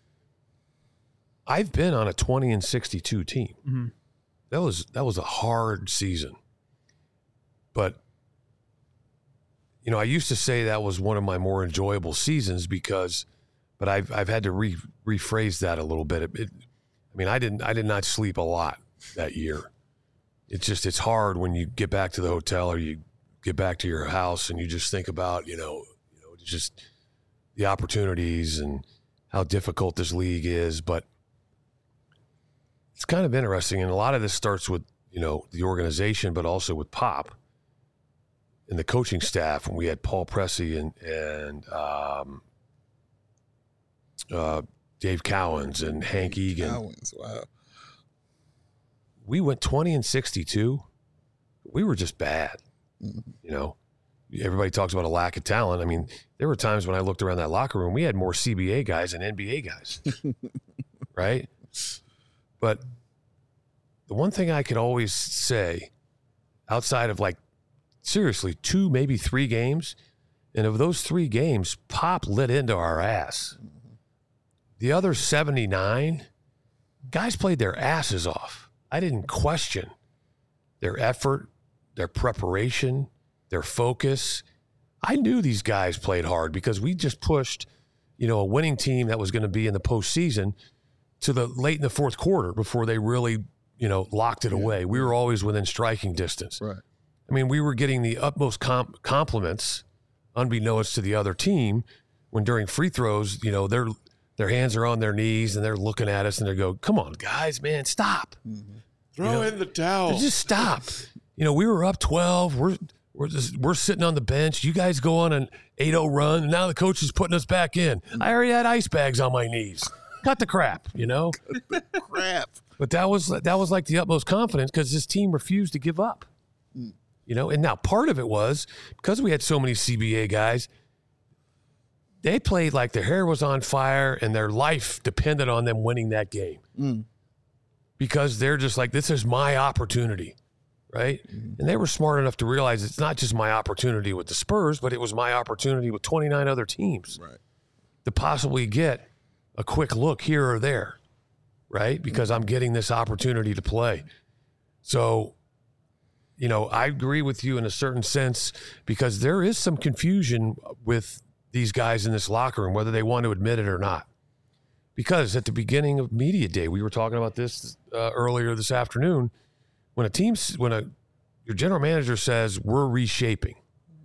I've been on a 20-62 team. Mm-hmm. That was a hard season. But you know, I used to say that was one of my more enjoyable seasons but I've had to rephrase that a little bit. I mean, I did not sleep a lot that year. It's hard when you get back to the hotel or you get back to your house and you just think about, just the opportunities and how difficult this league is. But it's kind of interesting. And a lot of this starts with, the organization, but also with Pop and the coaching staff. When we had Paul Pressey and Dave Cowens and Hank Egan. Cowens, wow. We went 20-62. We were just bad. Everybody talks about a lack of talent. I mean, there were times when I looked around that locker room, we had more CBA guys than NBA guys, right? But the one thing I could always say, outside of seriously 2, maybe 3 games, and of those 3 games, Pop lit into our ass. The other 79, guys played their asses off. I didn't question their effort, their preparation, their focus. I knew these guys played hard because we just pushed, a winning team that was going to be in the postseason to the late in the fourth quarter before they really, locked it away. We were always within striking distance. Right. I mean, we were getting the utmost compliments, unbeknownst to the other team, when during free throws, their hands are on their knees and they're looking at us and they go, "Come on, guys, man, stop." Mm-hmm. Throw in the towel. Just stop. We were up 12. We're sitting on the bench. You guys go on an 8-0 run, and now the coach is putting us back in. I already had ice bags on my knees. Cut the crap, Crap. But that was like the utmost confidence because this team refused to give up. And now part of it was because we had so many CBA guys, they played like their hair was on fire and their life depended on them winning that game. Because they're just like, this is my opportunity, right? And they were smart enough to realize it's not just my opportunity with the Spurs, but it was my opportunity with 29 other teams to possibly get a quick look here or there, right? Because I'm getting this opportunity to play. So, I agree with you in a certain sense because there is some confusion with these guys in this locker room, whether they want to admit it or not. Because at the beginning of media day, we were talking about this earlier this afternoon, when your general manager says we're reshaping,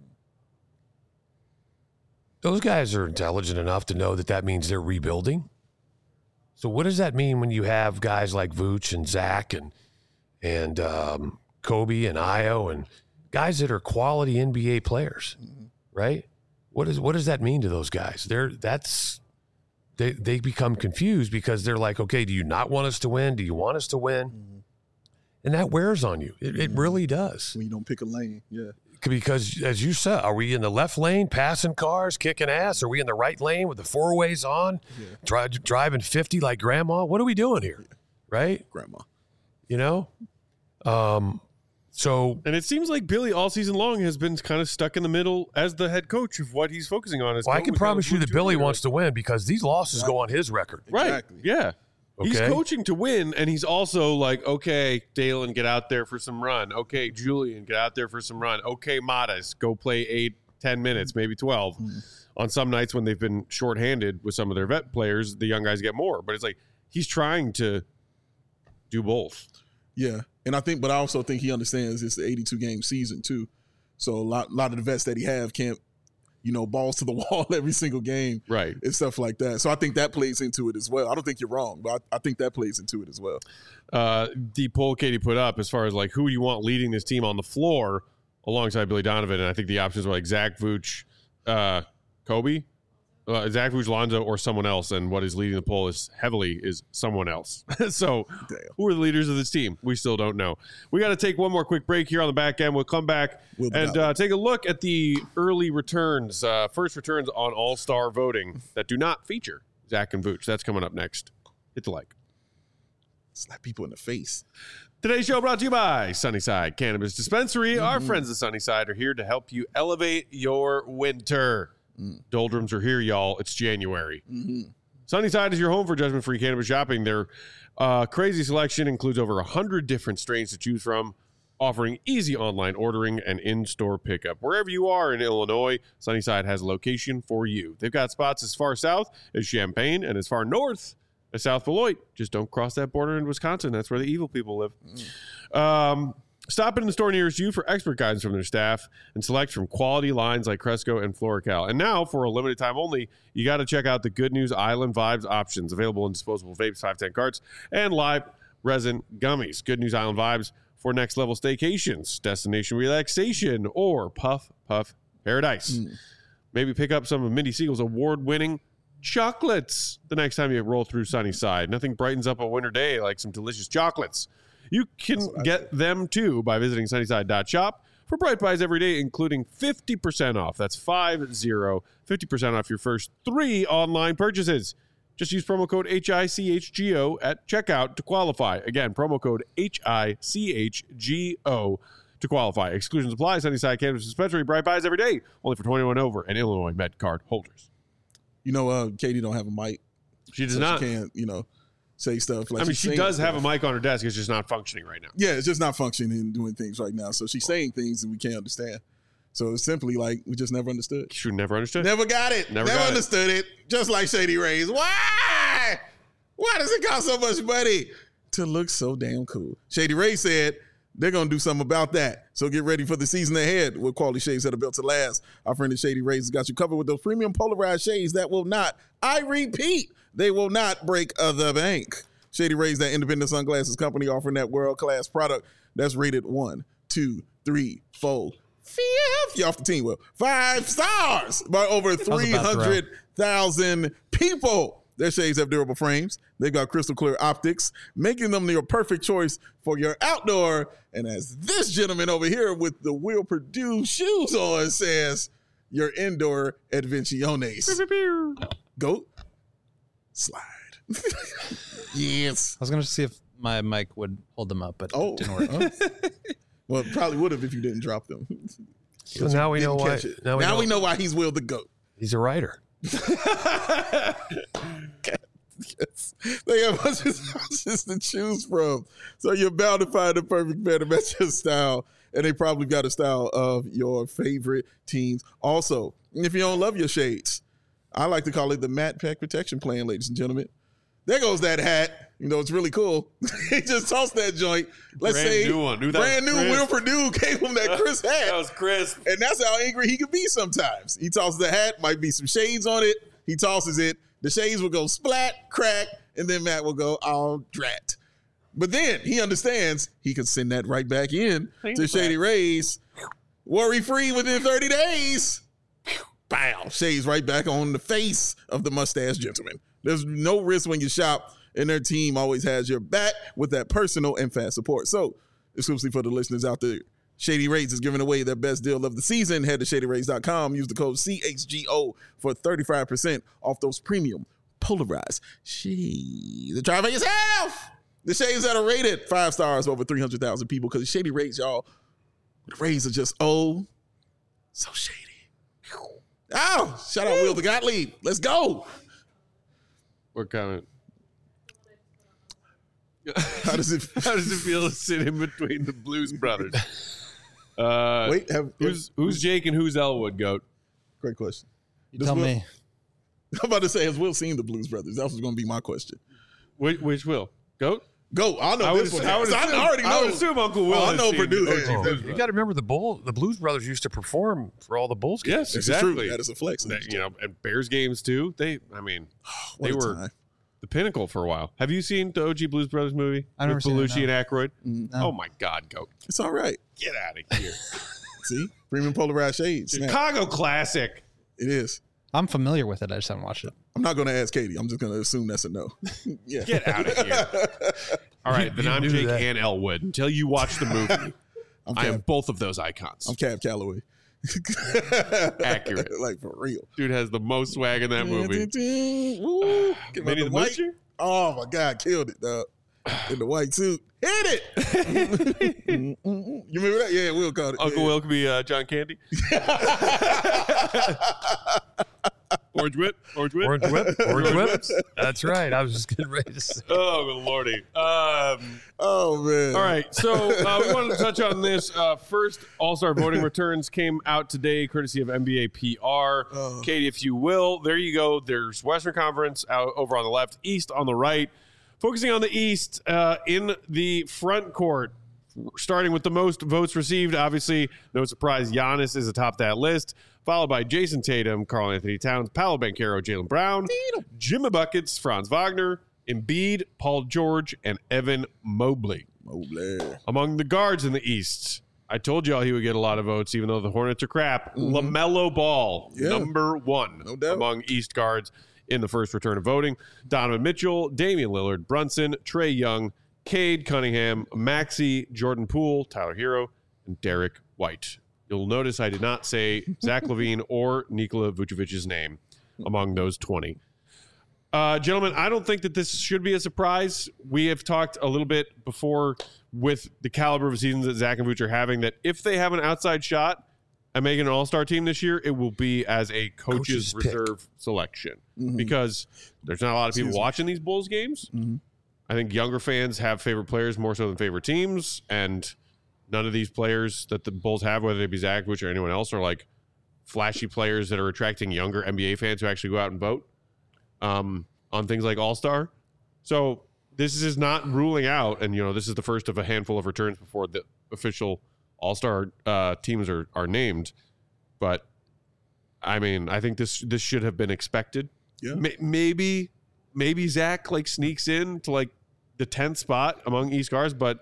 those guys are intelligent enough to know that means they're rebuilding. So what does that mean when you have guys like Vooch and Zach and Kobe and Ayo and guys that are quality NBA players, right? What does that mean to those guys? They become confused because they're like, okay, do you not want us to win? Do you want us to win? And that wears on you. It really does. When you don't pick a lane, yeah. Because as you said, are we in the left lane passing cars, kicking ass? Are we in the right lane with the 4-ways on, driving 50 like grandma? What are we doing here, right? Grandma. And it seems like Billy all season long has been kind of stuck in the middle as the head coach of what he's focusing on. Well, I can promise you that Billy wants to win because these losses go on his record. Right. Exactly. Yeah. Okay. He's coaching to win, and he's also like, okay, Dalen, get out there for some run. Okay, Julian, get out there for some run. Okay, Matas, go play 8-10 minutes, maybe 12. On some nights when they've been shorthanded with some of their vet players, the young guys get more. But it's like he's trying to do both. Yeah. And I also think he understands it's the 82-game season too. So a lot of the vets that he have can't, balls to the wall every single game. Right. And stuff like that. So I think that plays into it as well. I don't think you're wrong, but I think that plays into it as well. The poll Katie put up as far as like who do you want leading this team on the floor alongside Billy Donovan, and I think the options were like Zach Vooch, Kobe, Zach Vooch, Lonzo, or someone else, and what is leading the poll is someone else. So who are the leaders of this team? We still don't know. We got to take one more quick break here on the back end. We'll come back and take a look at the early returns, first returns on All-Star voting that do not feature Zach and Vooch. That's coming up next. Hit the like. Slap people in the face. Today's show brought to you by Sunnyside Cannabis Dispensary. Our friends at Sunnyside are here to help you elevate your winter. Doldrums are here, y'all. It's January. Sunnyside is your home for judgment-free cannabis shopping. Their crazy selection includes over 100 different strains to choose from. offering easy online ordering and in-store pickup. Wherever you are in Illinois, Sunnyside has a location for you. They've got spots as far south as Champaign and as far north as South Beloit. Just don't cross that border in Wisconsin. That's where the evil people live. Stop in the store nearest you for expert guidance from their staff and select from quality lines like Cresco and Floracal. And now, for a limited time only, you got to check out the Good News Island Vibes options available in disposable vapes, 510 carts, and live resin gummies. Good News Island Vibes for next level staycations, destination relaxation, or puff paradise. Maybe pick up some of Mindy Siegel's award-winning chocolates the next time you roll through Sunnyside. Nothing brightens up a winter day like some delicious chocolates. You can get them too by visiting sunnyside.shop for Bright Buys every day, including 50% off. That's 50% off your first 3 online purchases. Just use promo code HICHGO at checkout to qualify. Again, promo code HICHGO to qualify. Exclusions apply. Sunnyside Cannabis Dispensary. Bright Buys every day. Only for 21 over and Illinois Med card holders. You know, Katie don't have a mic. She does not. She can't, say stuff. Like, I mean, she does have a mic on her desk. It's just not functioning right now. Yeah, it's just not functioning and doing things right now. So she's saying things that we can't understand. So it's simply like we just never understood. She never understood. Never got it. Never understood it. Just like Shady Rays. Why? Why does it cost so much money to look so damn cool? Shady Rays said they're going to do something about that. So get ready for the season ahead with quality shades that are built to last. Our friend at Shady Rays has got you covered with those premium polarized shades that will not, I repeat, they will not break the bank. Shady Rays, that independent sunglasses company offering that world-class product that's rated 1, 2, 3, 4, 5. You're off the team. Well, 5 stars by over 300,000 people. Their shades have durable frames. They've got crystal clear optics, making them your perfect choice for your outdoor. And as this gentleman over here with the Will Purdue shoes on says, your indoor adventiones. Goat. Slide. Yes. I was going to see if my mic would hold them up, but it didn't work. Well, it probably would have if you didn't drop them. So now we know why. Now we know why he's Will the Goat. He's a writer. Yes. They have options to choose from. So you're bound to find the perfect pair to match your style. And they probably got a style of your favorite teams. Also, if you don't love your shades, I like to call it the Matte Pack Protection Plan, ladies and gentlemen. There goes that hat. It's really cool. He just tossed that joint. Let's say new one. Brand new Will Purdue gave him that crisp hat. That was crisp. And that's how angry he could be sometimes. He tosses the hat, might be some shades on it. He tosses it. The shades will go splat, crack, and then Matt will go, oh, drat. But then he understands he can send that right back in to Shady Rays. Worry-free within 30 days. Bow. Shades right back on the face of the mustache gentleman. There's no risk when you shop, and their team always has your back with that personal and fast support. So, exclusively for the listeners out there, Shady Rays is giving away their best deal of the season. Head to ShadyRays.com. Use the code CHGO for 35% off those premium polarized shades. Try for yourself. The shades that are rated 5 stars over 300,000 people because Shady Rays, y'all, the Rays are just, so shady. Oh, shout out Will the Gottlieb. Let's go. What comment? How does it feel to sit in between the Blues Brothers? Who's Jake and who's Elwood, Goat? Great question. You tell me. I'm about to say, has Will seen the Blues Brothers? That was going to be my question. Which Will? Goat? Go. I know this one. I already know. I would assume Uncle Will. I know Purdue. You got to remember the Blues Brothers used to perform for all the Bulls games. Yes, exactly. True. That is a flex. And Bears games too. They were time. The pinnacle for a while. Have you seen the OG Blues Brothers movie with Belushi and Aykroyd? No. Oh my God, Goat! It's all right. Get out of here. See, premium polarized shades. Chicago classic. It is. I'm familiar with it. I just haven't watched it. I'm not going to ask Katie. I'm just going to assume that's a no. Yeah. Get out of here. All right, then I'm Jake and Elwood. Until you watch the movie, I am both of those icons. I'm Cab Calloway. Accurate. Like, for real. Dude has the most swag in that movie. Ooh, Minnie the Moocher? Oh, my God. Killed it, dog. In the white suit. Hit it. You remember that? Yeah, Will caught it. Uncle Will could be John Candy. Orange whip. Orange whip. That's right. I was just getting ready to say. Oh, lordy. Oh, man. All right. So we wanted to touch on this. First, All-Star voting returns came out today, courtesy of NBA PR. Katie, if you will, there you go. There's Western Conference out over on the left, East on the right. Focusing on the East, in the front court, starting with the most votes received, obviously, no surprise, Giannis is atop that list, followed by Jason Tatum, Karl Anthony Towns, Paolo Banchero, Jaylen Brown, Jimmy Buckets, Franz Wagner, Embiid, Paul George, and Evan Mobley. Among the guards in the East, I told y'all he would get a lot of votes, even though the Hornets are crap. LaMelo Ball, number one among East guards in the first return of voting. Donovan Mitchell, Damian Lillard, Brunson, Trae Young, Cade Cunningham, Maxey, Jordan Poole, Tyler Hero, and Derek White. You'll notice I did not say Zach LaVine or Nikola Vucevic's name among those 20. Gentlemen, I don't think that this should be a surprise. We have talked a little bit before with the caliber of seasons that Zach and Vuce are having, that if they have an outside shot at making an all-star team this year, it will be as a coach's reserve selection. Because there's not a lot of people watching these Bulls games. I think younger fans have favorite players more so than favorite teams, and none of these players that the Bulls have, whether they be Zach, Vuce, or anyone else, are like flashy players that are attracting younger NBA fans who actually go out and vote on things like All-Star. So this is not ruling out, and this is the first of a handful of returns before the official All-Star teams are named. But I mean, I think this should have been expected. Yeah. Maybe Zach sneaks in to the 10th spot among East guards, but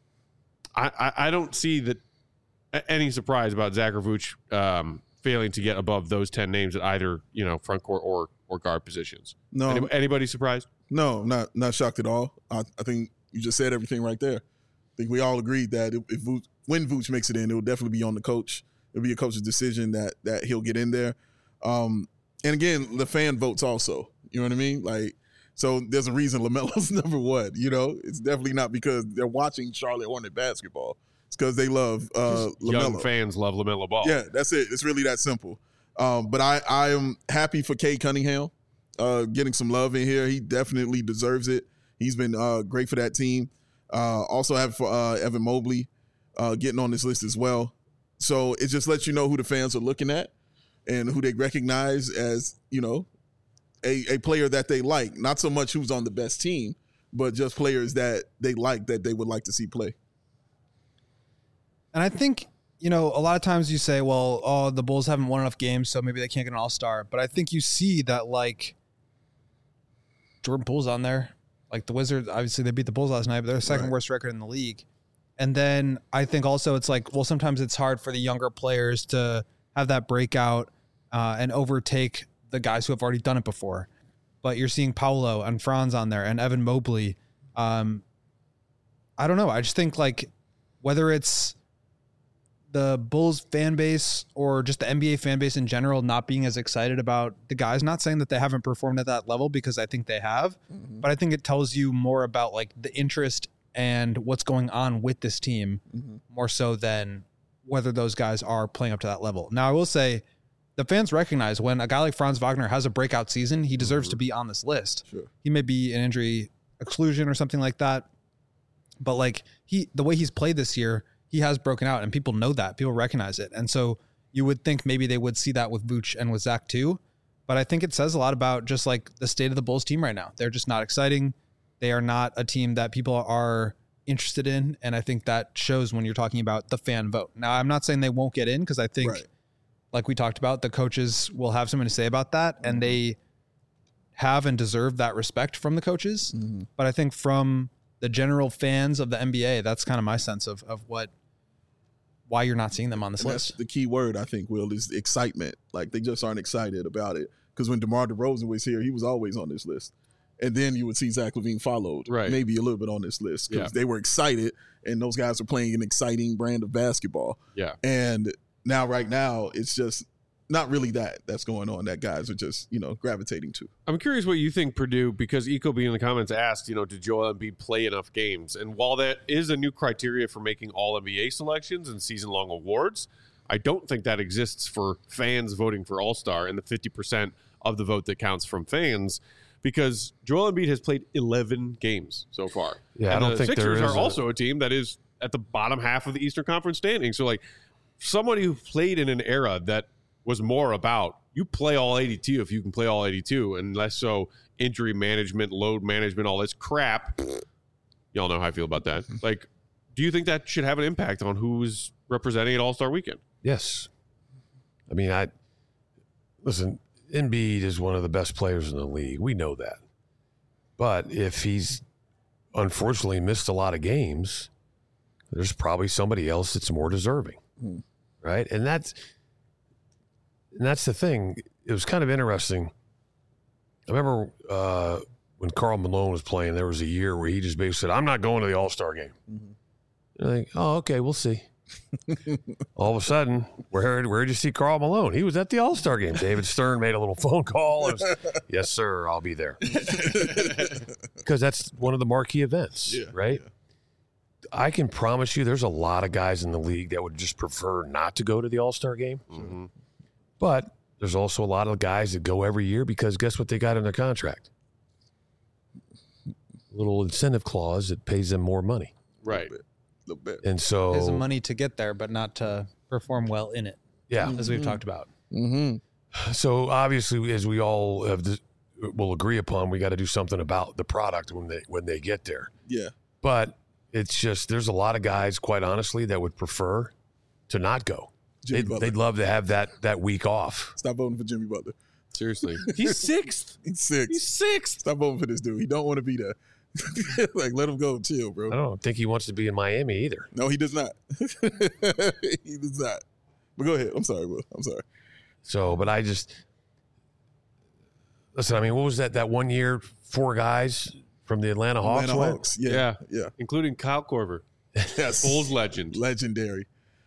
I don't see that any surprise about Zach or Vuce failing to get above those 10 names at either front court or guard positions. No, anybody surprised? No, not shocked at all. I think you just said everything right there. I think we all agreed that when Vuce makes it in, it will definitely be on the coach. It'll be a coach's decision that he'll get in there. And again, the fan votes also. You know what I mean? So there's a reason LaMelo's number one. It's definitely not because they're watching Charlotte Hornet basketball. It's because they love LaMelo. Young fans love LaMelo Ball. Yeah, that's it. It's really that simple. But I am happy for Cade Cunningham getting some love in here. He definitely deserves it. He's been great for that team. Also have for Evan Mobley getting on this list as well. So it just lets you know who the fans are looking at and who they recognize as, a player that they like. Not so much who's on the best team, but just players that they like, that they would like to see play. And I think, a lot of times you say, well, the Bulls haven't won enough games, so maybe they can't get an all-star. But I think you see that, Jordan Poole's on there. The Wizards, obviously they beat the Bulls last night, but they're the second worst record in the league. And then I think also it's sometimes it's hard for the younger players to have that breakout and overtake the guys who have already done it before. But you're seeing Paolo and Franz on there and Evan Mobley. I don't know. I just think whether it's the Bulls fan base or just the NBA fan base in general not being as excited about the guys, not saying that they haven't performed at that level, because I think they have, but I think it tells you more about the interest and what's going on with this team more so than whether those guys are playing up to that level. Now, I will say the fans recognize when a guy like Franz Wagner has a breakout season, he deserves to be on this list. Sure. He may be an injury exclusion or something like that, but the way he's played this year, he has broken out, and people know that. People recognize it. And so you would think maybe they would see that with Vuce and with Zach too. But I think it says a lot about just the state of the Bulls team right now. They're just not exciting. They are not a team that people are interested in. And I think that shows when you're talking about the fan vote. Now, I'm not saying they won't get in, because I think, like we talked about, the coaches will have something to say about that. And they have and deserve that respect from the coaches. But I think from the general fans of the NBA, that's kind of my sense of why you're not seeing them on this list. That's the key word, I think, Will, is excitement. They just aren't excited about it. Because when DeMar DeRozan was here, he was always on this list. And then you would see Zach LaVine followed, maybe a little bit on this list, because they were excited, and those guys were playing an exciting brand of basketball. Yeah. And right now, it's just not really that's going on, that guys are just, gravitating to. I'm curious what you think, Purdue, because Ecobee in the comments asked, did Joel Embiid play enough games? And while that is a new criteria for making all NBA selections and season-long awards, I don't think that exists for fans voting for All-Star and the 50% of the vote that counts from fans, because Joel Embiid has played 11 games so far. Yeah, and I don't think there Sixers is are also a team that is at the bottom half of the Eastern Conference standing. So, like, somebody who played in an era that was more about you play all 82 if you can play all 82, and less so injury management, load management, all this crap. Y'all know how I feel about that. Like, do you think that should have an impact on who's representing at All-Star Weekend? Yes. I mean, listen, Embiid is one of the best players in the league. We know that. But if he's unfortunately missed a lot of games, there's probably somebody else that's more deserving. Right? And that's the thing. It was kind of interesting. I remember when Karl Malone was playing, there was a year where he just basically said, I'm not going to the All-Star game. And I think, oh, okay, we'll see. All of a sudden, where'd you see Karl Malone? He was at the All-Star game. David Stern made a little phone call. It was, yes, sir, I'll be there. Because that's one of the marquee events, right? Yeah. I can promise you there's a lot of guys in the league that would just prefer not to go to the All-Star game. Mm-hmm. But there's also a lot of guys that go every year because guess what they got in their contract? A little incentive clause that pays them more money. Right. A little bit. And so there's the money to get there, but not to perform well in it. Yeah. As we've talked about. Mm-hmm. So obviously, as we all will agree upon, we got to do something about the product when they get there. Yeah. But it's just, there's a lot of guys, quite honestly, that would prefer to not go. They'd love to have that week off. Stop voting for Jimmy Butler. Seriously. He's sixth. He's sixth. Stop voting for this dude. He don't want to be there. Like, let him go. Chill, bro. I don't think he wants to be in Miami either. No, he does not. He does not. But go ahead. I'm sorry, Will. I'm sorry. So, but I just listen. I mean, what was that 1 year? 4 guys from the Atlanta Hawks. Hawks. Yeah. Including Kyle Korver. Yes. Bulls legend. Legendary.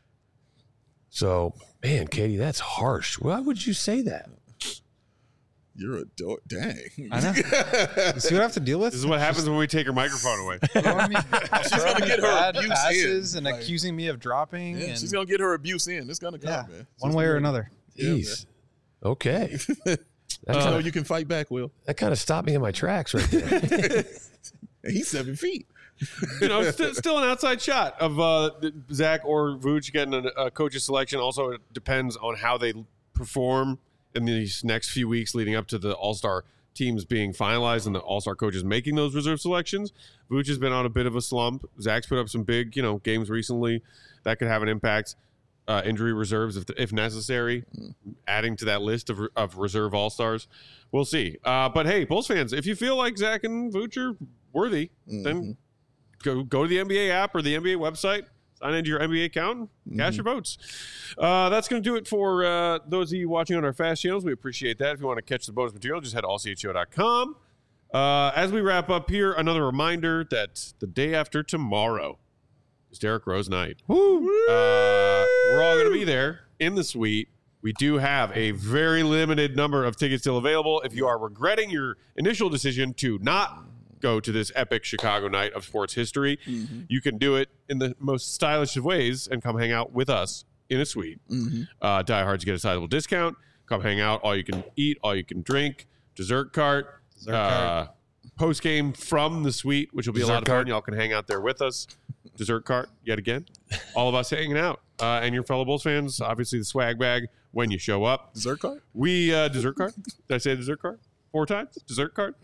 So, man, Katie, that's harsh. Why would you say that? You're a dork. Dang. I know. You see what I have to deal with? This is what happens when we take her microphone away. She's going to get her abuse passes in. And accusing me of dropping. Yeah, and she's going to get her abuse in. It's going to come, man. One way or another. Jeez. Yeah, okay. So you can fight back, Will. That kind of stopped me in my tracks right there. He's 7 feet. You know, still an outside shot of Zach or Vooch getting a coach's selection. Also, it depends on how they perform in these next few weeks leading up to the All-Star teams being finalized and the All-Star coaches making those reserve selections. Vooch has been on a bit of a slump. Zach's put up some big, games recently. That could have an impact. Injury reserves if necessary, adding to that list of reserve All-Stars. We'll see. But hey, Bulls fans, if you feel like Zach and Vooch are worthy, then go to the NBA app or the NBA website, sign into your NBA account, and cast your votes. That's going to do it for those of you watching on our fast channels. We appreciate that. If you want to catch the bonus material, just head to allcho.com. As we wrap up here, another reminder that the day after tomorrow is Derrick Rose night. Woo! We're all going to be there in the suite. We do have a very limited number of tickets still available. If you are regretting your initial decision to not go to this epic Chicago night of sports history, you can do it in the most stylish of ways and come hang out with us in a suite. Diehards get a sizable discount. Come hang out. All you can eat, all you can drink. Dessert cart. Post game from the suite, which will be a lot of fun. Y'all can hang out there with us. Dessert cart yet again. All of us hanging out. And your fellow Bulls fans, obviously the swag bag when you show up. Dessert cart? Dessert cart? Did I say dessert cart? 4 times? Dessert cart?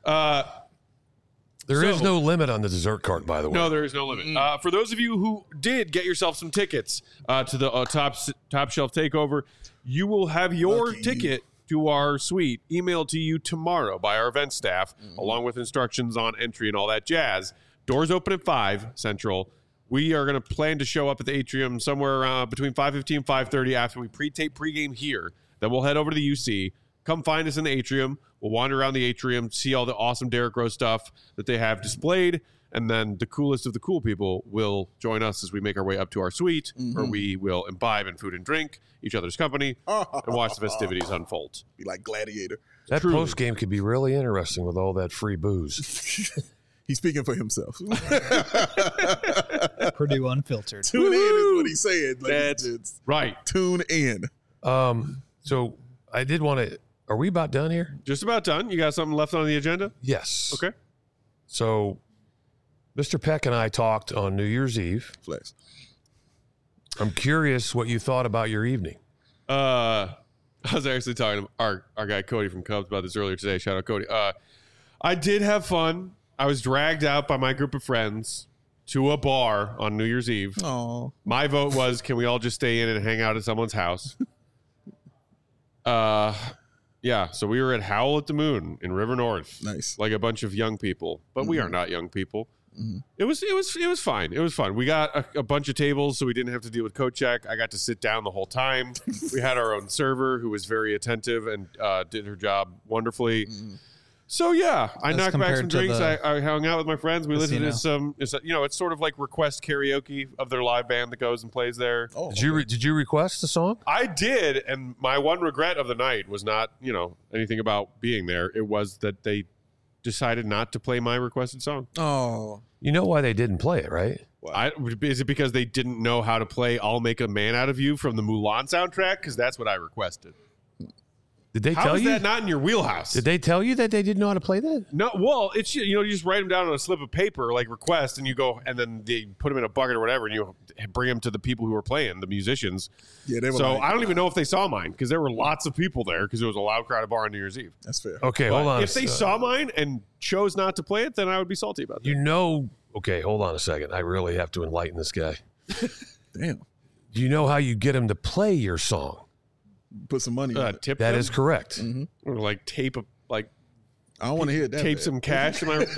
There is no limit on the dessert cart, by the way. No, there is no limit. For those of you who did get yourself some tickets to the Top Shelf Takeover, you will have your ticket to our suite emailed to you tomorrow by our event staff, along with instructions on entry and all that jazz. Doors open at 5 Central. We are going to plan to show up at the atrium somewhere around between 5:15 and 5:30 after we pre-tape pregame here. Then we'll head over to the UC. Come find us in the atrium. We'll wander around the atrium, see all the awesome Derrick Rose stuff that they have displayed, and then the coolest of the cool people will join us as we make our way up to our suite, where we will imbibe in food and drink, each other's company, and watch the festivities unfold. Be like Gladiator. That post game could be really interesting with all that free booze. He's speaking for himself. Purdue Unfiltered. Tune in is what he's saying. That's right. Tune in. So I did want to Are we about done here? Just about done. You got something left on the agenda? Yes. Okay. So, Mr. Peck and I talked on New Year's Eve. Flex. I'm curious what you thought about your evening. I was actually talking to our guy Cody from Cubs about this earlier today. Shout out Cody. I did have fun. I was dragged out by my group of friends to a bar on New Year's Eve. Oh, My vote was, can we all just stay in and hang out at someone's house? Yeah, so we were at Howl at the Moon in River North. nice. Like a bunch of young people, but we are not young people. It was fine. It was fun. We got a bunch of tables, so we didn't have to deal with coat check. I got to sit down the whole time. We had our own server who was very attentive and did her job wonderfully. So yeah, I As knocked back compared some to drinks. the I hung out with my friends. We listened to casino. it's sort of like request karaoke of their live band that goes and plays there. Oh, Did you request the song? I did, and my one regret of the night was not, anything about being there. It was that they decided not to play my requested song. oh, You know why they didn't play it, right? Is it because they didn't know how to play "I'll Make a Man Out of You" from the Mulan soundtrack? Because that's what I requested. Did they How tell is you? that not in your wheelhouse? Did they tell you that they didn't know how to play that? No, well, it's you just write them down on a slip of paper like request, and you go, and then they put them in a bucket or whatever, and you bring them to the people who are playing, the musicians. yeah, they were. So like, I don't even know if they saw mine because there were lots of people there because it was a loud crowded bar on New Year's Eve. that's fair. Okay, But hold on. if they saw mine and chose not to play it, then I would be salty about that. Okay, hold on a second. I really have to enlighten this guy. Damn, Do you know how you get him to play your song? put some money on it. Tip That them? is correct. Or like tape I don't want to hear that. tape bad. some cash.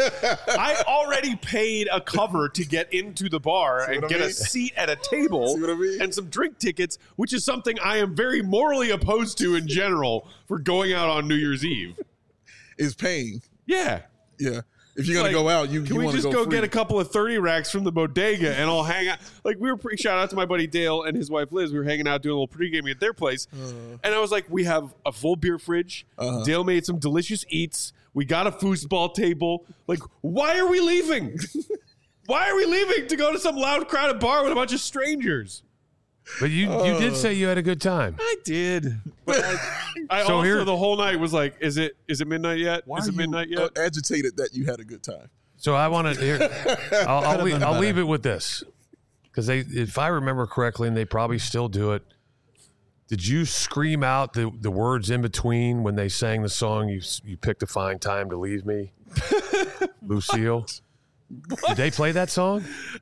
I already paid a cover to get into the bar and what I get a mean? seat at a table See what I mean? and some drink tickets, which is something I am very morally opposed to in general for going out on New Year's Eve. Is paying. Yeah. Yeah, if you're gonna Like, go out, you Can you we want to just go go free. get a couple of 30 racks from the bodega and I'll hang out? Like, shout out to my buddy Dale and his wife Liz. We were hanging out doing a little pre-gaming at their place. And I was like, we have a full beer fridge. Dale made some delicious eats. We got a foosball table. Like, why are we leaving? Why are we leaving to go to some loud, crowded bar with a bunch of strangers? But you did say you had a good time. I did. But I So also, here- the whole night was like, is it midnight yet? Why Is are it you midnight yet? agitated that you had a good time? So I want to hear. I'll been leave better. it with this, because if I remember correctly, and they probably still do it. Did you scream out the words in between when they sang the song? You picked a fine time to leave me, Lucille. Did they play that song?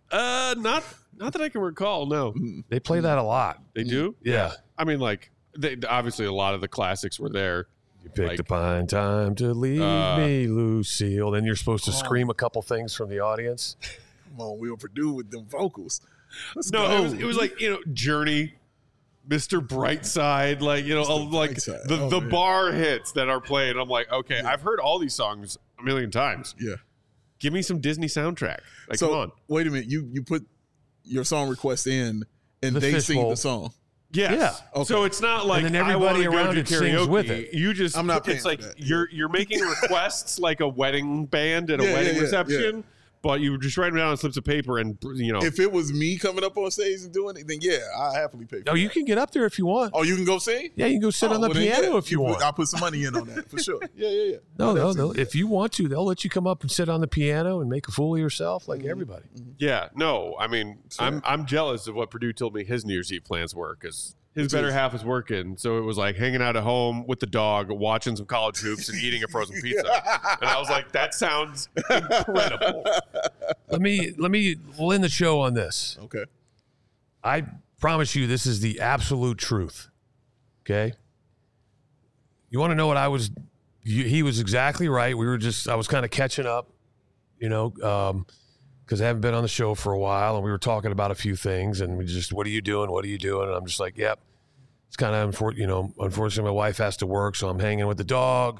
Not that I can recall. No, They play that a lot. they do. Yeah. I mean, like, obviously a lot of the classics were there. You picked Like, a fine time to leave me, Lucille. Then you're supposed to scream a couple things from the audience. Come on, Will Purdue with them vocals. Let's No, go. it was like, Journey, Mr. Brightside, like, like Brightside. the Oh, man. bar hits that are played. I'm like, okay, I've heard all these songs a million times. Yeah. Give me some Disney soundtrack. Like, So come on. wait a minute. You put your song request in, and The they sing fishbowl. the song. Yes. Yeah. Okay. So it's not like then I everybody wanna go around do it sings karaoke. with it. You just I'm not paying it's like for that. you're making requests like a wedding band at a Yeah, wedding yeah, reception, but you just write them down on slips of paper and If it was me coming up on stage and doing it, then yeah, I happily pay for No, that. you can get up there if you want. Oh, you can go sing? Yeah, you can go sit on the well, then, piano yeah. if you want. I'll put some money in on that for sure. Yeah. No. If you want to, they'll let you come up and sit on the piano and make a fool of yourself like everybody. Yeah, no, I mean, I'm jealous of what Purdue told me his New Year's Eve plans were because his better half was working. So it was like hanging out at home with the dog, watching some college hoops, and eating a frozen pizza. And I was like, that sounds incredible. Let me end the show on this. Okay. I promise you, this is the absolute truth. Okay. You want to know what he was exactly right. I was kind of catching up, because I haven't been on the show for a while, and we were talking about a few things, and what are you doing? What are you doing? And I'm just like, yep. It's kind of unfortunately, my wife has to work, so I'm hanging with the dog.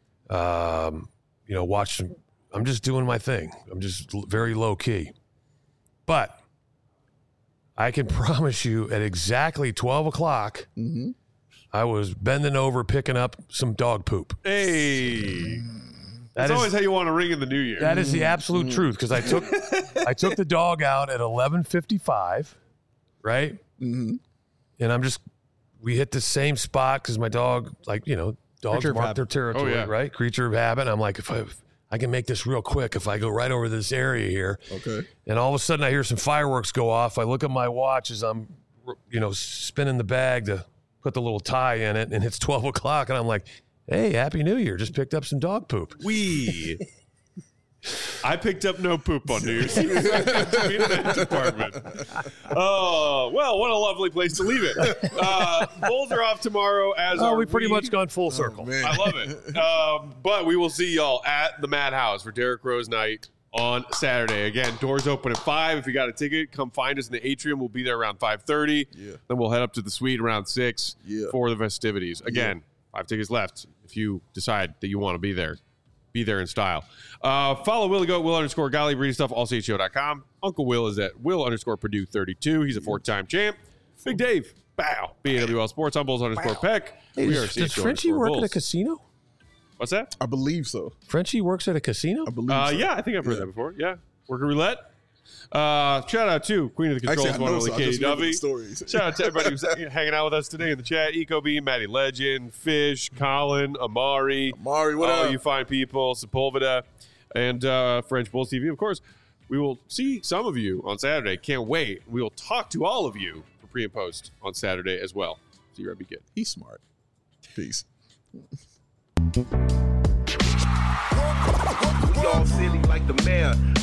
Watching. I'm just doing my thing. I'm just very low key. But I can promise you, at exactly 12 o'clock, I was bending over picking up some dog poop. Hey. That That's is- always how you want to ring in the new year. That is the absolute truth, because I took the dog out at 11:55, right? Mm-hmm. And we hit the same spot because my dog, dogs Creature of mark habit. their territory, Oh, yeah. right? Creature of habit. I'm like, if I can make this real quick, if I go right over this area here, Okay. and all of a sudden I hear some fireworks go off. I look at my watch as I'm, spinning the bag to put the little tie in it, and it's 12 o'clock, and I'm like, hey, Happy New Year. Just picked up some dog poop. I picked up no poop on New Year's Eve. To be in that department. Oh, well, what a lovely place to leave it. Bulls are off tomorrow as Oh, are we pretty much gone full circle. Man. I love it. But we will see y'all at the Madhouse for Derrick Rose night on Saturday. Again, doors open at 5. If you got a ticket, come find us in the atrium. We'll be there around 5:30. Yeah. Then we'll head up to the suite around 6 for the festivities. Again, 5 tickets left if you decide that you want to be there. Be there in style. Follow Willie Goat, Will_Golly, Breeding Stuff, allchgo.com. Uncle Will is at Will_Purdue32. He's a 4-time champ. Big Dave, bow. BAWL Sports, I'm Bulls_Peck. Hey, We are does CHO Frenchie work at a Bulls. casino? What's that? I believe so. Frenchie works at a casino? I believe so. Yeah, I think I've heard that before. Yeah. Worker Roulette. Shout out to Queen of the Controls, Actually, I one know only so. I Katie just remember the Dovey. stories. Shout out to everybody who's hanging out with us today in the chat. EcoBeam, Maddie Legend, Fish, Colin, Amari. Amari, what all up? you fine people, Sepulveda, and French Bulls TV. Of course, we will see some of you on Saturday. Can't wait. We will talk to all of you for pre and post on Saturday as well. See you, Rebby Kid. He's smart. Peace. We all silly like the mayor.